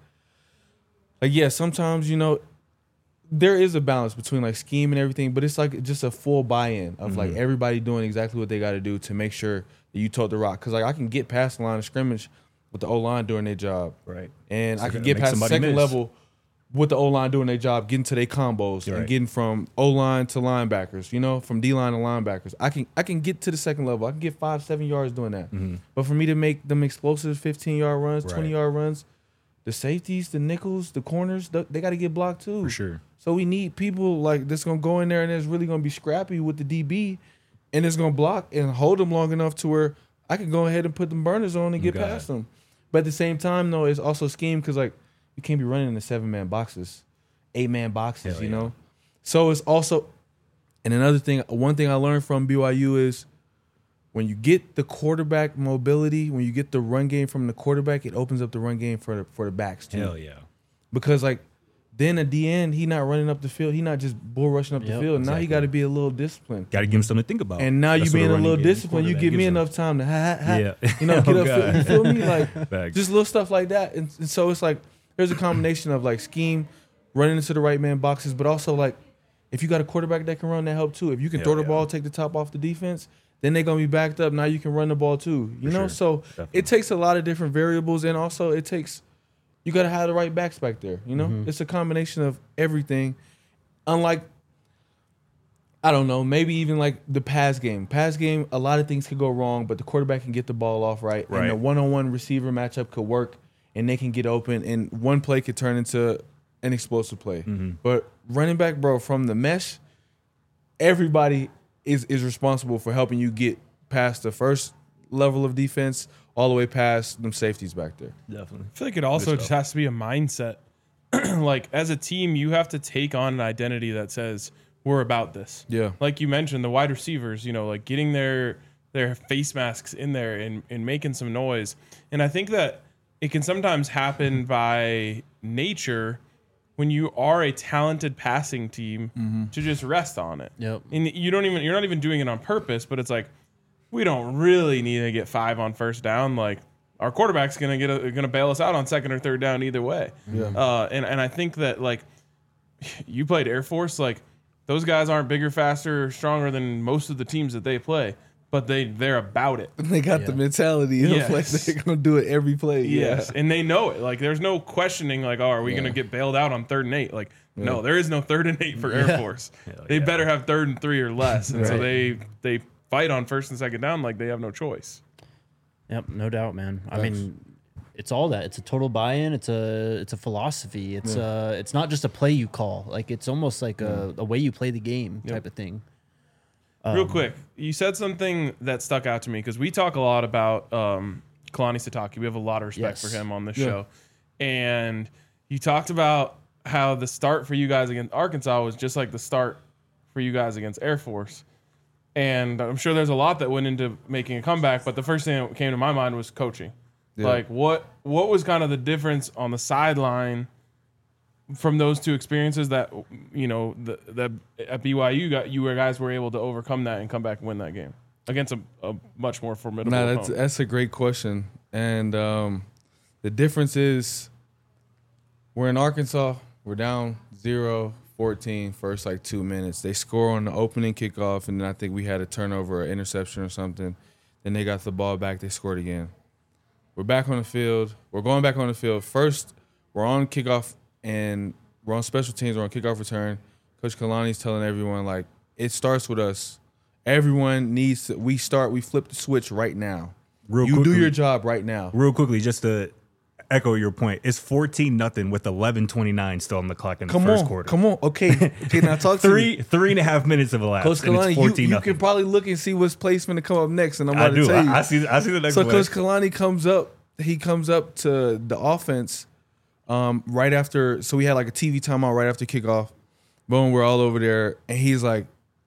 yeah, sometimes, you know, there is a balance between like scheme and everything, but it's like just a full buy-in of like everybody doing exactly what they got to do to make sure that you tote the rock. Because like I can get past the line of scrimmage with the O-line doing their job, Right. and So I can gotta get make past the somebody second miss. level with the O-line doing their job, getting to their combos Right. and getting from O-line to linebackers, you know, from D-line to linebackers. I can get to the second level. I can get 5-7 yards doing that. But for me to make them explosive 15-yard runs, Right. 20-yard runs, the safeties, the nickels, the corners, they got to get blocked too. For sure. So we need people like that's gonna go in there and it's really gonna be scrappy with the DB, and it's gonna block and hold them long enough to where I can go ahead and put them burners on and get Got past them. But at the same time, though, it's also scheme because like you can't be running in the 7-man boxes, 8-man boxes, Hell you yeah. know. So it's also, and another thing, one thing I learned from BYU is when you get the quarterback mobility, when you get the run game from the quarterback, it opens up the run game for the backs too. Hell yeah. Because like then at the end, he not running up the field. He not just bull rushing up the Yep, field. Now he exactly. got to be a little disciplined. Got to give him something to think about. And now you That's what being a running little game disciplined, you quarterback give me gives him. enough time to Yeah. you know, get Oh, up. God. You feel me? Like Facts. just little stuff like that. And so it's like there's a combination of like scheme, running into the right man boxes, but also like if you got a quarterback that can run, that help too. If you can Hell throw the yeah. ball, take the top off the defense, then they're gonna be backed up. Now you can run the ball too. You For know, sure. so Definitely. it takes a lot of different variables, and also it takes you gotta have the right backs back there. You know, it's a combination of everything. Unlike, I don't know, maybe even like the pass game. Pass game, a lot of things could go wrong, but the quarterback can get the ball off right. Right. And the one-on-one receiver matchup could work, and they can get open, and one play could turn into an explosive play. But running back, bro, from the mesh, everybody is responsible for helping you get past the first level of defense all the way past them safeties back there. Definitely. I feel like it also Good just stuff. has to be a mindset. Like as a team, you have to take on an identity that says we're about this. Yeah. Like you mentioned, the wide receivers, you know, like getting their face masks in there and making some noise. And I think that it can sometimes happen by nature when you are a talented passing team to just rest on it. Yep. And you're not even doing it on purpose, but it's like we don't really need to get 5 on first down. Like our quarterback's gonna bail us out on second or third down either way. Yeah. And I think that like you played Air Force, like those guys aren't bigger, faster, stronger than most of the teams that they play, but they're about it. They got the mentality of like Yes. they're gonna do it every play. Yes, and they know it. Like there's no questioning. Like, oh, are we gonna get bailed out on 3rd and 8? Like, no, there is no 3rd and 8 for Air Force. They yeah. better have 3rd and 3 or less, and so Right. they fight on 1st and 2nd down like they have no choice. Yep, no doubt, man. I Thanks. mean, it's all that. It's a total buy-in. It's a philosophy. It's not just a play you call. Like it's almost like a way you play the game type of thing. Real quick, you said something that stuck out to me because we talk a lot about Kalani Sitake. We have a lot of respect Yes. for him on this Yeah. show, and you talked about how the start for you guys against Arkansas was just like the start for you guys against Air Force. And I'm sure there's a lot that went into making a comeback, but the first thing that came to my mind was coaching. Yeah. Like what was kind of the difference on the sideline from those two experiences that the at BYU you guys were able to overcome that and come back and win that game against a much more formidable opponent? That's a great question. And the difference is we're in Arkansas. We're down 0-14 first 2 minutes. They score on the opening kickoff, and then I think we had a turnover or interception or something. Then they got the ball back. They scored again. We're back on the field. We're going back on the field. First, we're on kickoff, and we're on special teams. We're on kickoff return. Coach Kalani's telling everyone, it starts with us. Everyone needs to – we flip the switch right now. You do your job right now. Real quickly, just to echo your point, it's 14-0 with 11:29 still on the clock in the first quarter. Come on. Okay, now talk to me. 3.5 minutes of elapsed. Coach Kalani, you can probably look and see what's placement to come up next, and I'm about to tell you. I see the next So play. Coach Kalani comes up to the offense right after. So we had a TV timeout right after kickoff. Boom, we're all over there, and he's like,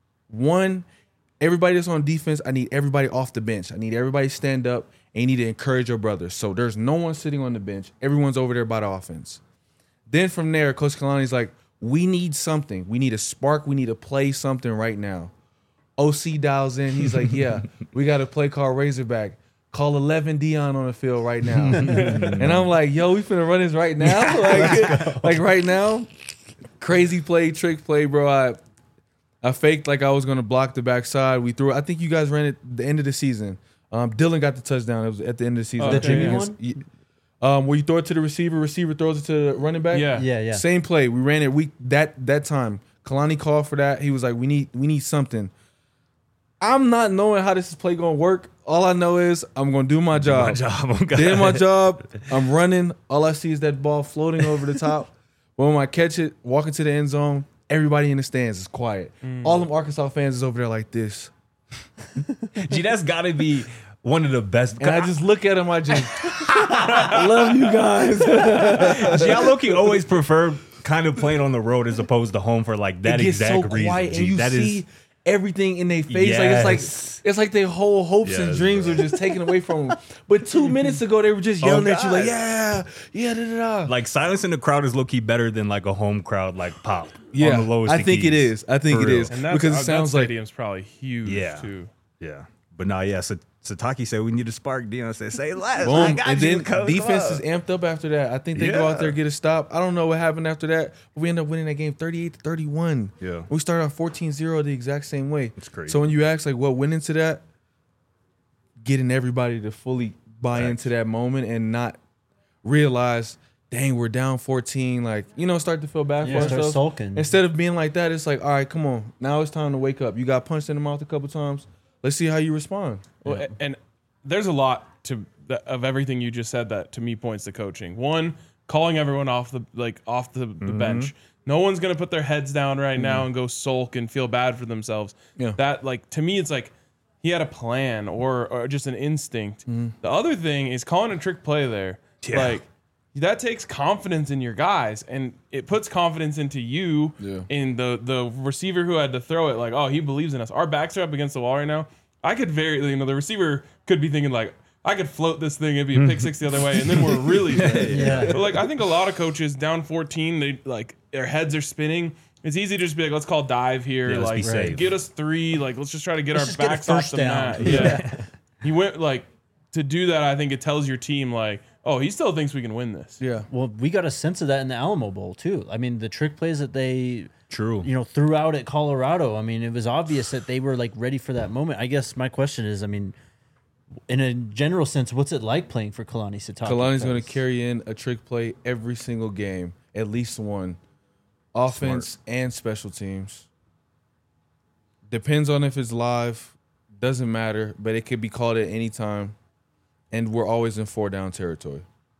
everybody that's on defense, I need everybody off the bench. I need everybody to stand up, and you need to encourage your brothers. So there's no one sitting on the bench. Everyone's over there by the offense. Then from there, Coach Kalani's like, we need something. We need a spark. We need to play something right now. OC dials in. He's like, yeah, we got a play called Razorback. Call 11 Dion on the field right now. And I'm like, yo, we finna run this right now? like right now? Crazy play, trick play, bro. I faked I was going to block the backside. We threw it. I think you guys ran it the end of the season. Dylan got the touchdown. It was at the end of the season. The Jimmy one? Where you throw it to the receiver throws it to the running back? Yeah. Same play. We ran it that time. Kalani called for that. He was like, we need something. I'm not knowing how this play going to work. All I know is I'm going to do my job. Did my job. I'm running. All I see is that ball floating over the top. When I catch it, walk into the end zone, everybody in the stands is quiet. All them Arkansas fans is over there like this. Gee, that's got to be one of the best. And I just look at him, I just I love you guys. Gee, I low-key always prefer kind of playing on the road as opposed to home for that it gets exact so reason. quiet, Gee, and you that see is everything in their face. Yes. It's like their whole hopes and Yes, dreams bro. are just taken away from them. But 2 minutes ago, they were just yelling at you God. yeah, da, da. silence in the crowd is low-key better than a home crowd pop. Yeah, on the lowest I of think it keys. is. I think For it real. is. And that's, because it sounds that like stadium's probably huge too. Yeah. But no, yeah. So Sataki said we need a spark. Dion said, say less. boom. I got And you, then coach. defense Come is on. amped up after that. I think they go out there, get a stop. I don't know what happened after that. But we end up winning that game 38-31. Yeah. We started off 14-0 the exact same way. It's crazy. So when you ask what went into that, getting everybody to fully buy into that moment and not realize, dang, we're down 14. Start to feel bad for Start ourselves. sulking. Instead of being like that, it's all right, come on. Now it's time to wake up. You got punched in the mouth a couple times. Let's see how you respond. Well, and there's a lot of everything you just said that to me points to coaching. One, calling everyone off the bench. No one's gonna put their heads down right now and go sulk and feel bad for themselves. Yeah. That to me, it's he had a plan or just an instinct. The other thing is calling a trick play there. Yeah. That takes confidence in your guys, and it puts confidence into you in the receiver who had to throw it. He believes in us. Our backs are up against the wall right now. I could the receiver could be thinking I could float this thing, it'd be a pick six the other way, and then we're really dead. Yeah. But I think a lot of coaches down 14, they their heads are spinning. It's easy to just be let's call dive here. Yeah, let's be safe. Get us 3. Let's just try to get Let's our just get a backs off first the down. mat. Yeah. He went to do that. I think it tells your team oh, he still thinks we can win this. Yeah. Well, we got a sense of that in the Alamo Bowl too. I mean, the trick plays that they threw out at Colorado. I mean, it was obvious that they were ready for that moment. I guess my question is, I mean, in a general sense, what's it like playing for Kalani Sitake? Kalani's going to carry in a trick play every single game, at least one. Offense and special teams. Depends on if it's live. Doesn't matter, but it could be called at any time. And we're always in 4-down territory.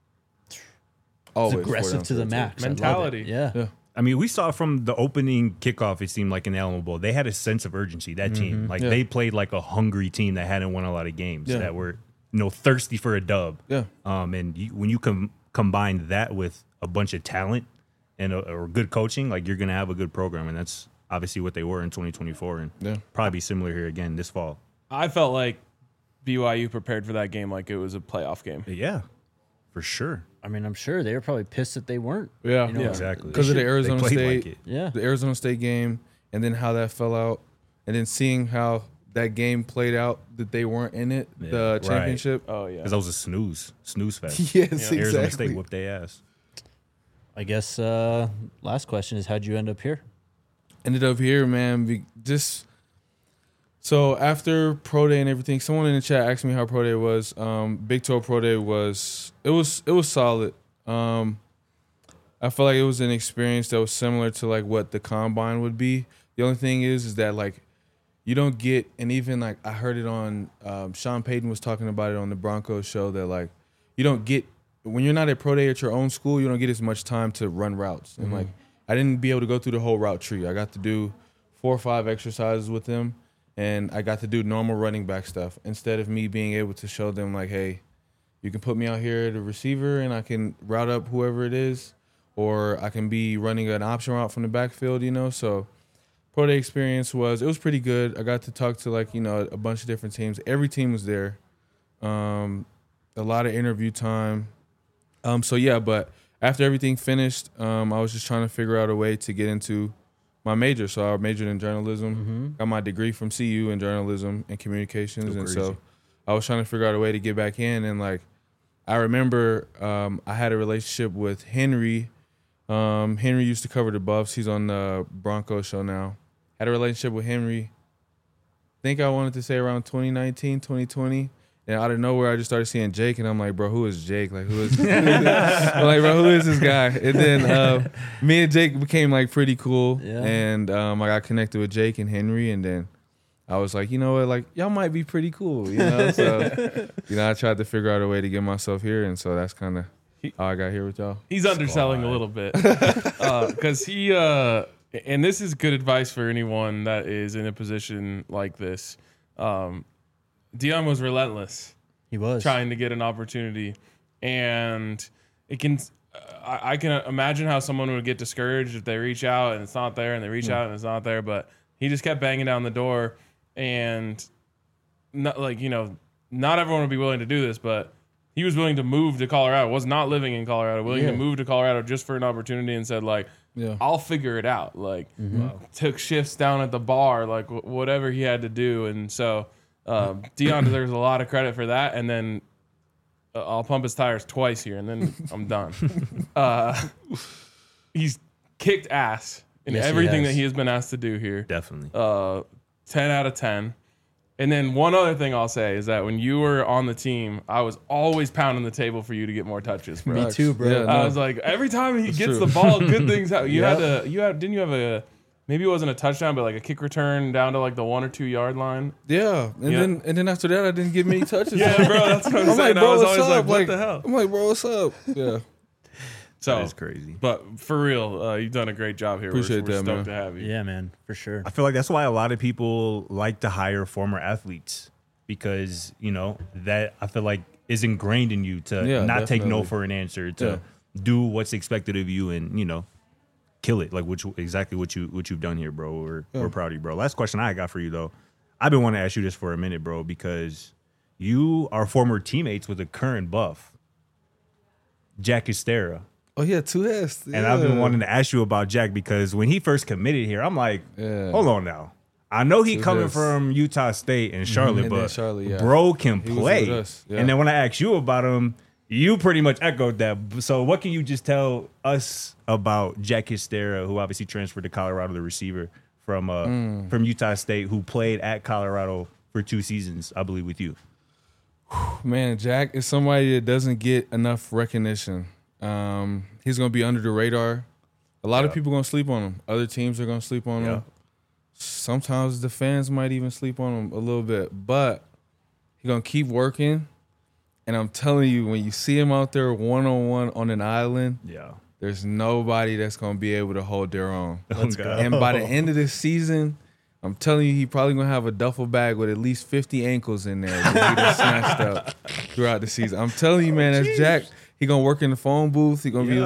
Always It's aggressive 4-down to the territory. max. I love it. Mentality. Yeah. I mean, we saw from the opening kickoff, it seemed like in the Alamo Bowl, they had a sense of urgency, that team. They played like a hungry team that hadn't won a lot of games, that were thirsty for a dub. Yeah. And when you combine that with a bunch of talent and or good coaching, you're going to have a good program. And that's obviously what they were in 2024 and probably be similar here again this fall. I felt like BYU prepared for that game like it was a playoff game. Yeah. For sure. I mean, I'm sure they were probably pissed that they weren't. Yeah, You know, Exactly. because of the They Arizona played State, like it. Yeah. the Arizona State game, and then how that fell out, and then seeing how that game played out, that they weren't in it, Yeah, the right. championship. Oh yeah. Because that was a snooze fest. Yes, Arizona exactly. State whooped their ass. I guess last question is, how'd you end up here? Ended up here, man. So after Pro Day and everything, someone in the chat asked me how Pro Day was. Big 12 Pro Day was solid. I feel like it was an experience that was similar to like what the combine would be. The only thing is that like you don't get, and even like I heard it on Sean Payton was talking about it on the Broncos show, that like you don't get, when you're not at Pro Day at your own school, you don't get as much time to run routes. And like I didn't be able to go through the whole route tree. I got to do 4 or 5 exercises with them, and I got to do normal running back stuff instead of me being able to show them like, hey, you can put me out here at a receiver and I can route up whoever it is, or I can be running an option route from the backfield, you know. So Pro Day experience was pretty good. I got to talk to like, you know, a bunch of different teams. Every team was there. A lot of interview time. So yeah, but after everything finished, I was just trying to figure out a way to get into my major. So I majored in journalism, got my degree from CU in journalism and communications. And so I was trying to figure out a way to get back in. And like, I remember I had a relationship with Henry. Henry used to cover the Buffs. He's on the Broncos show now. Had a relationship with Henry. I think I wanted to say around 2019, 2020. And out of nowhere, I just started seeing Jake, and I'm like, bro, who is Jake? Like, who is? I'm like, bro, who is this guy? And then me and Jake became like pretty cool, and I got connected with Jake and Henry, and then I was like, you know what, like y'all might be pretty cool, you know. So, you know, I tried to figure out a way to get myself here, and so that's kind of how I got here with y'all. He's underselling a little bit because he and this is good advice for anyone that is in a position like this. Dion was relentless. He was trying to get an opportunity, and it can. I can imagine how someone would get discouraged if they reach out and it's not there, and they reach out and it's not there. But he just kept banging down the door, and not like, you know, not everyone would be willing to do this, but he was willing to move to Colorado. Was not living in Colorado, willing to move to Colorado just for an opportunity, and said like, I'll figure it out. Like, took shifts down at the bar, like whatever he had to do, and so. Dion deserves a lot of credit for that, and then I'll pump his tires twice here, and then I'm done. He's kicked ass in everything that he has been asked to do here. Definitely. 10 out of 10. And then one other thing I'll say is that when you were on the team, I was always pounding the table for you to get more touches, bro. Me too, bro. Yeah, I was like, every time he gets the ball, good things happen. Didn't you have a, maybe it wasn't a touchdown, but like a kick return down to like the 1 or 2 yard line? Yeah, and then after that, I didn't get many touches. Yeah, bro, that's what I'm saying. like, bro, I was what's always like, up? what the hell? I'm like, bro, what's up? Yeah. So That is crazy. But for real, you've done a great job here. Appreciate we're that, stoked man. to have you. Yeah, man, for sure. I feel like that's why a lot of people like to hire former athletes, because, you know, that I feel like is ingrained in you to not take no definitely. for an answer, to do what's expected of you, and, you know, kill it, like exactly what you've done here, bro. We're proud of you, bro. Last question I got for you, though. I've been wanting to ask you this for a minute, bro, because you are former teammates with a current Buff, Jack Estera. Oh yeah, 2S. And I've been wanting to ask you about Jack, because when he first committed here, I'm like, hold on now. I know he coming from Utah State and Charlotte, And then but Charlotte, bro can He was play. with us, yeah. And then when I asked you about him, you pretty much echoed that. So what can you just tell us about Jack Estera, who obviously transferred to Colorado, the receiver from Utah State, who played at Colorado for 2 seasons, I believe, with you? Man, Jack is somebody that doesn't get enough recognition. He's gonna be under the radar. A lot of people gonna sleep on him. Other teams are gonna sleep on him. Sometimes the fans might even sleep on him a little bit, but he's gonna keep working. And I'm telling you, when you see him out there one-on-one on an island, there's nobody that's gonna be able to hold their own. Let's go. And by the end of this season, I'm telling you, he probably gonna have a duffel bag with at least 50 ankles in there that he done snatched up throughout the season. I'm telling you, man, that's Jack. He gonna work in the phone booth. He gonna be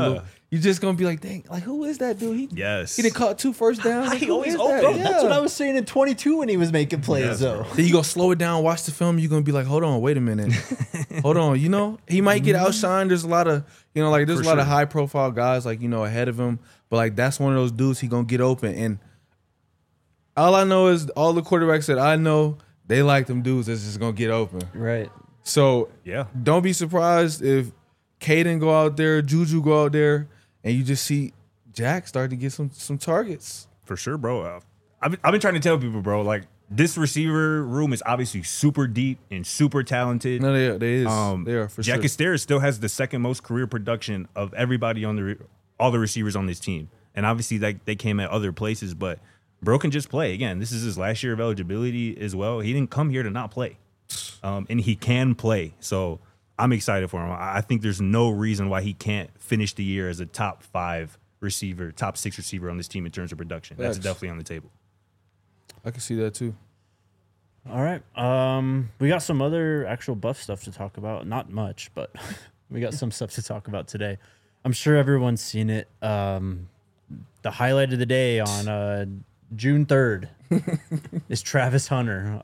you just gonna be like, dang, like who is that dude? Yes. He done caught 2 first downs. Like, He who always is open. that? Bro, Yeah. That's what I was saying in 22 when he was making plays, Yes, though. bro. Then you go slow it down, watch the film. You're gonna be like, hold on, wait a minute, hold on. You know, he might get outshined. There's a lot of, you know, like there's For a lot of sure. high profile guys, like, you know, ahead of him. But like that's one of those dudes he gonna get open. And all I know is all the quarterbacks that I know, they like them dudes that's just gonna get open. Right. So Yeah. don't be surprised if Caden go out there, Juju go out there, and you just see Jack start to get some targets. For sure, bro. I've been trying to tell people, bro, like this receiver room is obviously super deep and super talented. No, they are for Jack sure. Estera still has the second most career production of everybody on all the receivers on this team, and obviously like they came at other places, but bro can just play. Again, this is his last year of eligibility as well. He didn't come here to not play, and he can play. So I'm excited for him. I think there's no reason why he can't finish the year as a top 5 receiver, top 6 receiver on this team in terms of production. That's Facts. definitely on the table. I can see that too. All right. We got some other actual buff stuff to talk about. Not much, but we got some stuff to talk about today. I'm sure everyone's seen it. The highlight of the day on June 3rd is Travis Hunter.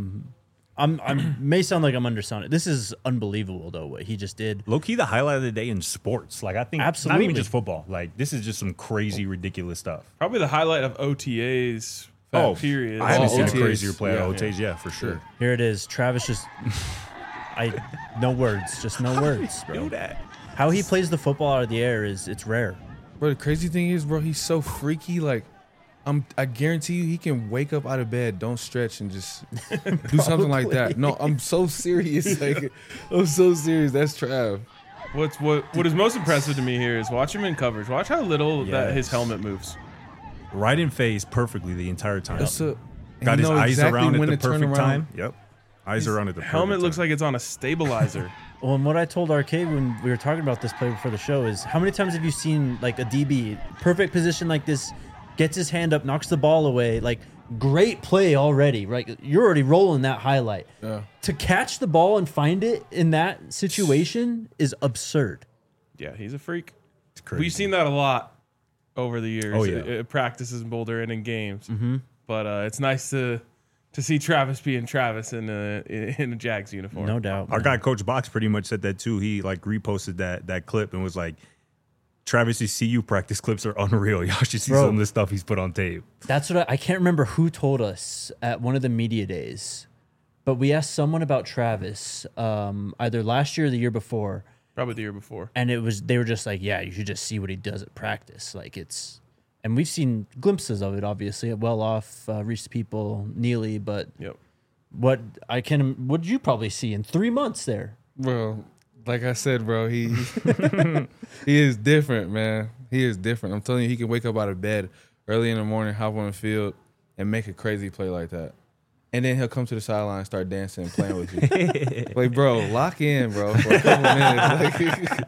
I may sound like I'm underselling it. This is unbelievable, though, what he just did. Low key, the highlight of the day in sports. Like I think, not Absolutely. even just football. Like this is just some crazy, ridiculous stuff. Probably the highlight of OTAs. Period. I haven't seen a OTAs. crazier play at Yeah. OTAs. Yeah, for sure. Here it is. Travis just... no words. Just no words, bro. Do that. How he plays the football out of the air it's rare. Bro, the crazy thing is, bro, he's so freaky. Like, I guarantee you, he can wake up out of bed, don't stretch, and just do something like that. No, I'm so serious. Like, I'm so serious. That's Trav. What is most impressive to me here is watch him in coverage. Watch how little that his Yes. helmet moves. Right in phase perfectly the entire time. That's a, Got you his know eyes exactly around at when the to turn perfect around. time. Yep. Eyes around at the perfect Helmet looks time. like it's on a stabilizer. Well, and what I told Arcade when we were talking about this play before the show is how many times have you seen like a DB perfect position like this, gets his hand up, knocks the ball away, like great play already, right? You're already rolling that highlight. Yeah. To catch the ball and find it in that situation is absurd. Yeah, he's a freak. It's crazy. We've seen that a lot over the years. Oh, yeah. At practices in Boulder and in games. Mm-hmm. But it's nice to see Travis being Travis in a Jags uniform. No doubt. Our man. guy Coach Box pretty much said that too. He like reposted that clip and was like, Travis's CU practice clips are unreal. Y'all should see Bro. some of the stuff he's put on tape. That's what I can't remember who told us at one of the media days, but we asked someone about Travis either last year or the year before. Probably the year before. And they were just like, yeah, you should just see what he does at practice. Like and we've seen glimpses of it, obviously, at Well Off, Reese People, Neely, but Yep. what did you probably see in 3 months there? Bro, like I said, bro, he he is different, man. He is different. I'm telling you, he can wake up out of bed early in the morning, hop on the field, and make a crazy play like that. And then he'll come to the sideline and start dancing and playing with you. Like, bro, lock in, bro, for a couple minutes.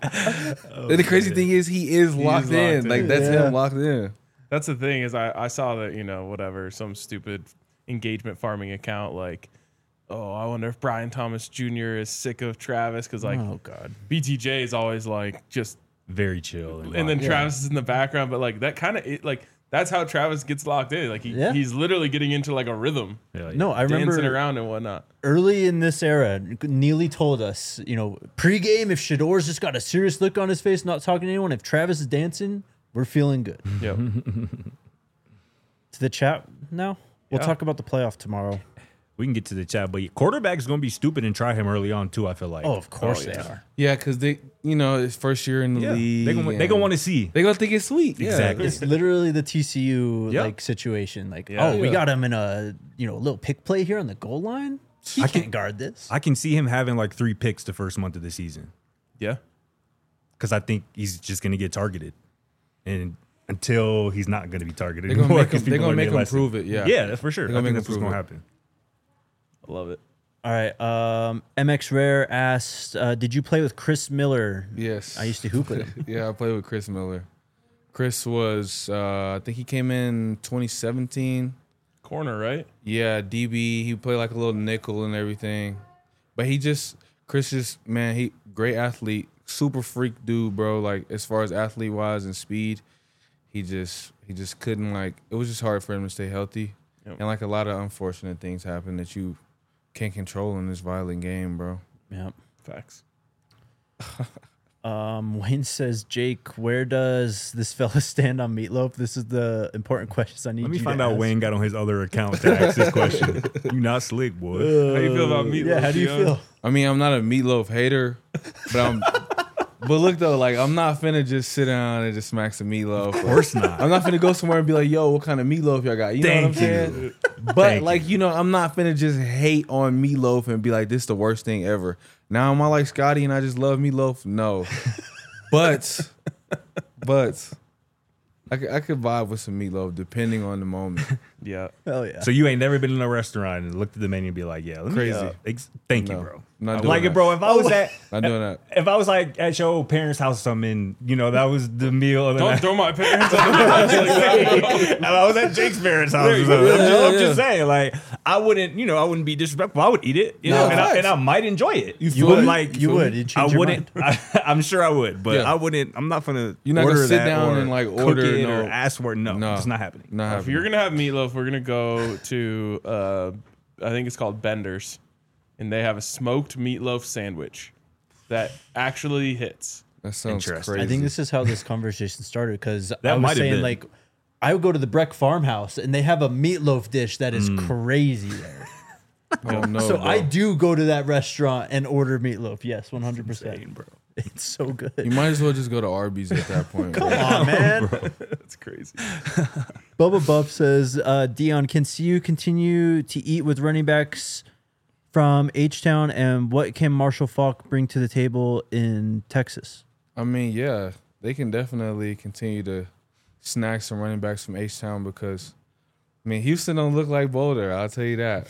Like, the crazy thing is, he is locked in. locked Like, in. that's Yeah. him locked in. That's the thing is I saw that, whatever, some stupid engagement farming account like, oh, I wonder if Brian Thomas Jr. is sick of Travis because like Oh God. BTJ is always like just Very chill. and then Yeah. Travis is in the background, but like that kind of like that's how Travis gets locked in. Like he's literally getting into like a rhythm, No, I remember dancing around and whatnot. early in this era, Neely told us, pregame, if Shador's just got a serious look on his face, not talking to anyone, if Travis is dancing, we're feeling good. Yep. To the chat now. We'll Yeah. talk about the playoff tomorrow. We can get to the chat, but quarterback's going to be stupid and try him early on too, I feel like. Oh, of course yeah. they are. Yeah, because they, his first year in the Yeah. league. They're going to want to see. They're going to think it's sweet. Yeah. Exactly. It's literally the TCU Yep. like situation. Like, Yeah. we Yeah. got him in a little pick play here on the goal line. He can't guard this. I can see him having like 3 picks the first month of the season Yeah. because I think he's just going to get targeted. And until he's not going to be targeted They're going to anymore, make 'cause him, they're people gonna are make him lesson. prove it. Yeah. Yeah, that's for sure. They're I gonna think make that's him what's going to prove it. happen. I love it. All right. MX Rare asked, did you play with Chris Miller? Yes. I used to hoop with him. Yeah, I played with Chris Miller. Chris was, I think he came in 2017. Corner, right? Yeah, DB. He played like a little nickel and everything. But Chris just, man, great athlete, super freak dude, bro. Like as far as athlete wise and speed, he just couldn't like. It was just hard for him to stay healthy, Yep. and like a lot of unfortunate things happen that you can't control in this violent game, bro. Yep. Facts. Wayne says, Jake, where does this fella stand on Meatloaf? This is the important questions I need. Let me you find to out ask. Wayne got on his other account to ask this question. You not slick, boy. How you feel about Meatloaf? Yeah, how do you Dion? feel? I mean, I'm not a Meatloaf hater, but look though, like I'm not finna just sit down and just smack some Meatloaf. Of course not. I'm not finna go somewhere and be like, yo, what kind of meatloaf y'all got? You know what I'm Thank saying? you. But Thank like, you know, I'm not finna just hate on meatloaf and be like, this is the worst thing ever. Now am I like Scotty and I just love meatloaf? No. But I could vibe with some meatloaf depending on the moment. Yeah. Hell yeah. So you ain't never been in a restaurant and looked at the menu and be like, yeah, let me, Crazy. thank you, No, bro. not I doing like that. it, bro. If I was at, Not doing that. if I was like at your parents' house or something, you know, that was the meal of the Don't night. throw my parents under the bus like that. If I was at Jake's parents' house or something. I'm just saying, like, I wouldn't be disrespectful. I would eat it, you know, and I might enjoy it. You You would? would like, You would. You'd change I your wouldn't. I'm sure I would, but Yeah. I wouldn't. I'm not gonna. You're not gonna order sit that down or and, like, cook order, it no. or ask for it. No, No. it's not happening. Not If happening. you're gonna have meatloaf, we're gonna go to I think it's called Bender's, and they have a smoked meatloaf sandwich that actually hits. That sounds Interesting. crazy. I think this is how this conversation started because I That was might have saying been. like I would go to the Breck Farmhouse and they have a meatloaf dish that is crazy there. oh no, So bro. I do go to that restaurant and order meatloaf. Yes, 100%. Insane, bro. It's so good. You might as well just go to Arby's at that point. Come bro. on, man. That's crazy. Bubba Buff says, Dion, can CU continue to eat with running backs from H-Town, and what can Marshall Falk bring to the table in Texas? I mean, yeah, they can definitely continue to snag some running backs from H-Town because, I mean, Houston don't look like Boulder, I'll tell you that.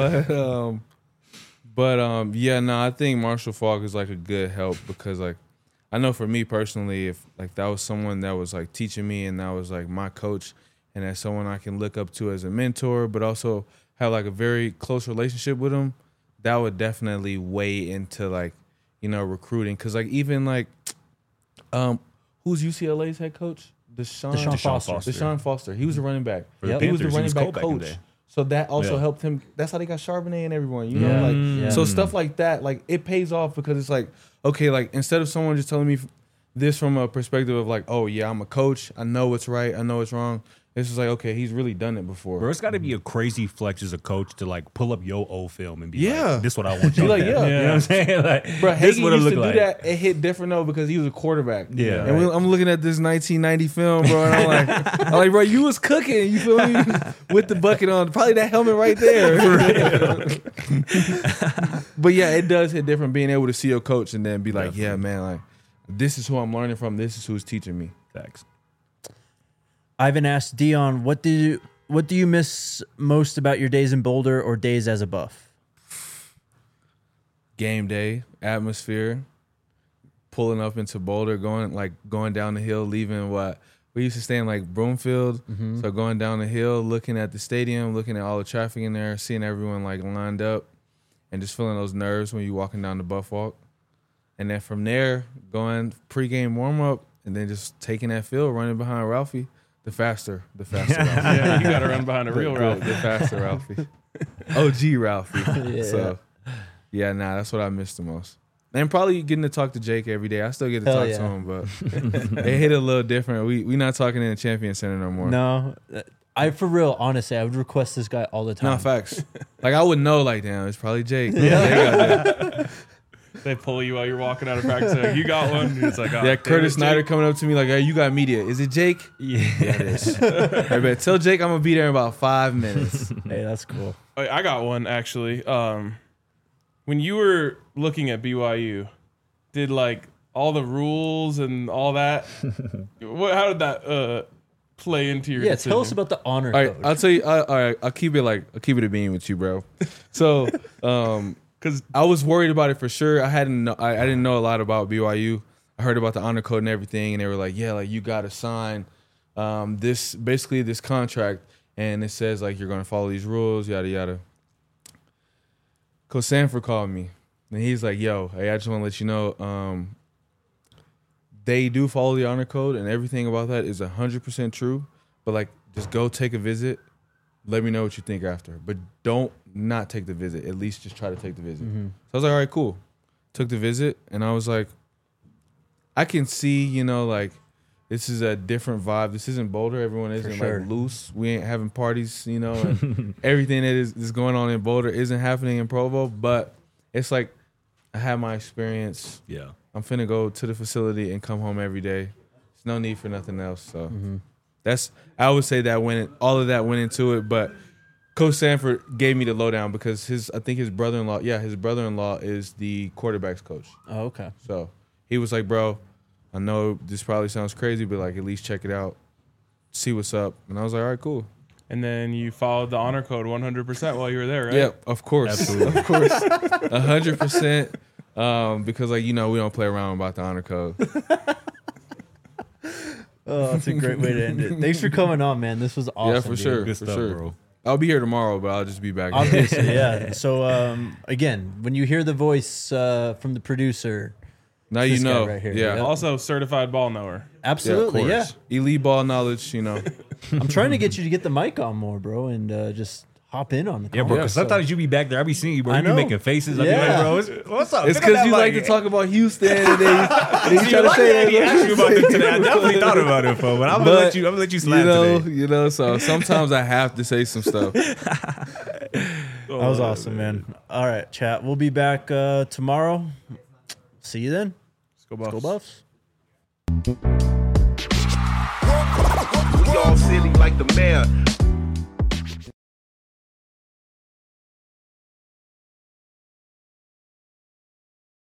But yeah, no, I think Marshall Falk is like a good help because like I know for me personally, if like that was someone that was like teaching me and that was like my coach and that's someone I can look up to as a mentor, but also have like a very close relationship with him, that would definitely weigh into like, you know, recruiting. Cause like even like who's UCLA's head coach? Deshaun Foster. Deshaun Foster. He was a running back. For the Yep. He was the Panthers, running back cold back in the coach. day. So that also Yeah. helped him. That's how they got Charbonnet and everyone. You Yeah. know, like Yeah. so stuff like that. Like it pays off because it's like okay, like instead of someone just telling me this from a perspective of like, oh yeah, I'm a coach. I know what's right. I know what's wrong. It's just like okay, he's really done it before. Bro, it's got to be a crazy flex as a coach to like pull up your old film and be Yeah. like, "This is what I want you Be like, to do." yeah. You know what I'm saying? Like, Bro, this is Hagee what it used to look do like. that. It hit different though because he was a quarterback. Yeah. and I'm looking at this 1990 film, bro, and I'm like, bro, you was cooking. You feel me? With the bucket on, probably that helmet right there. But yeah, it does hit different being able to see your coach and then be like, yeah, man, like this is who I'm learning from. This is who's teaching me. Facts. Ivan asked Dion, what do you miss most about your days in Boulder or days as a Buff? Game day atmosphere, pulling up into Boulder, going down the hill, leaving what we used to stay in like Broomfield. So going down the hill, looking at the stadium, looking at all the traffic in there, seeing everyone like lined up, and just feeling those nerves when you're walking down the Buff Walk. And then from there, going pregame warm up, and then just taking that field, running behind Ralphie, the faster Ralphie. Yeah, you got to run behind a real Ralph. The faster Ralphie. OG Ralphie. Yeah. So, yeah, that's what I miss the most. And probably getting to talk to Jake every day. I still get to Hell talk yeah. to him, but it hit a little different. We not talking in the Champion Center no more. No, I for real, honestly, I would request this guy all the time. No, facts. Like, I would know, like, damn, it's probably Jake. Yeah, They pull you while you're walking out of practice. Like, you got one. And it's like, oh, yeah, damn Curtis it, Snyder Jake. coming up to me like, hey, you got media. Is it Jake? Yeah. Yeah, it is. Hey, man, tell Jake I'm going to be there in about 5 minutes. Hey, that's cool. I got one actually. When you were looking at BYU, did like all the rules and all that? How did that play into your Yeah, decision? tell us about the honor All right, code. I'll tell you. All right, I'll keep it a bean with you, bro. So, because I was worried about it for sure. I didn't know a lot about BYU. I heard about the honor code and everything, and they were like, yeah, like you got to sign this contract, and it says like you're gonna follow these rules, yada yada. Coach Sanford called me, and he's like, yo, hey, I just want to let you know, they do follow the honor code, and everything about that is 100% true. But like, just go take a visit. Let me know what you think after. But don't not take the visit. At least just try to take the visit. So I was like, all right, cool. Took the visit, and I was like, I can see, you know, like, this is a different vibe. This isn't Boulder. Everyone isn't sure. like loose. We ain't having parties, you know, and everything that is going on in Boulder isn't happening in Provo. But it's like, I had my experience. Yeah. I'm finna go to the facility and come home every day. There's no need for nothing else. So I would say that all of that went into it. But Coach Sanford gave me the lowdown because I think his brother-in-law is the quarterback's coach. Oh, okay. So he was like, bro, I know this probably sounds crazy, but like, at least check it out, see what's up. And I was like, all right, cool. And then you followed the honor code 100% while you were there, right? Yeah, of course. Absolutely. Of course. 100%. Because, like, you know, we don't play around about the honor code. Oh, that's a great way to end it. Thanks for coming on, man. This was awesome. Yeah, for dude. sure. Good for stuff, sure. bro. I'll be here tomorrow, but I'll just be back. Obviously, yeah. So, again, when you hear the voice from the producer, Now you this guy know. right here. Yeah. Yep. Also, certified ball knower. absolutely, yeah. Elite ball knowledge, you know. I'm trying to get you to get the mic on more, bro, and just hop in on the Yeah, bro. Because so- sometimes you be back there, I be seeing you, bro. I You be know. making faces. I be Yeah. like, bro, what's up? It's Pick up because that you like to mic. talk about Houston and then you You try to like say that? He asked you about it today. I definitely thought about it, bro. But I'm gonna let you slap today. You know, so sometimes I have to say some stuff. That was awesome, man. All right, chat. We'll be back tomorrow. See you then. Let's go Go Buffs. Buffs. We all silly like the mayor.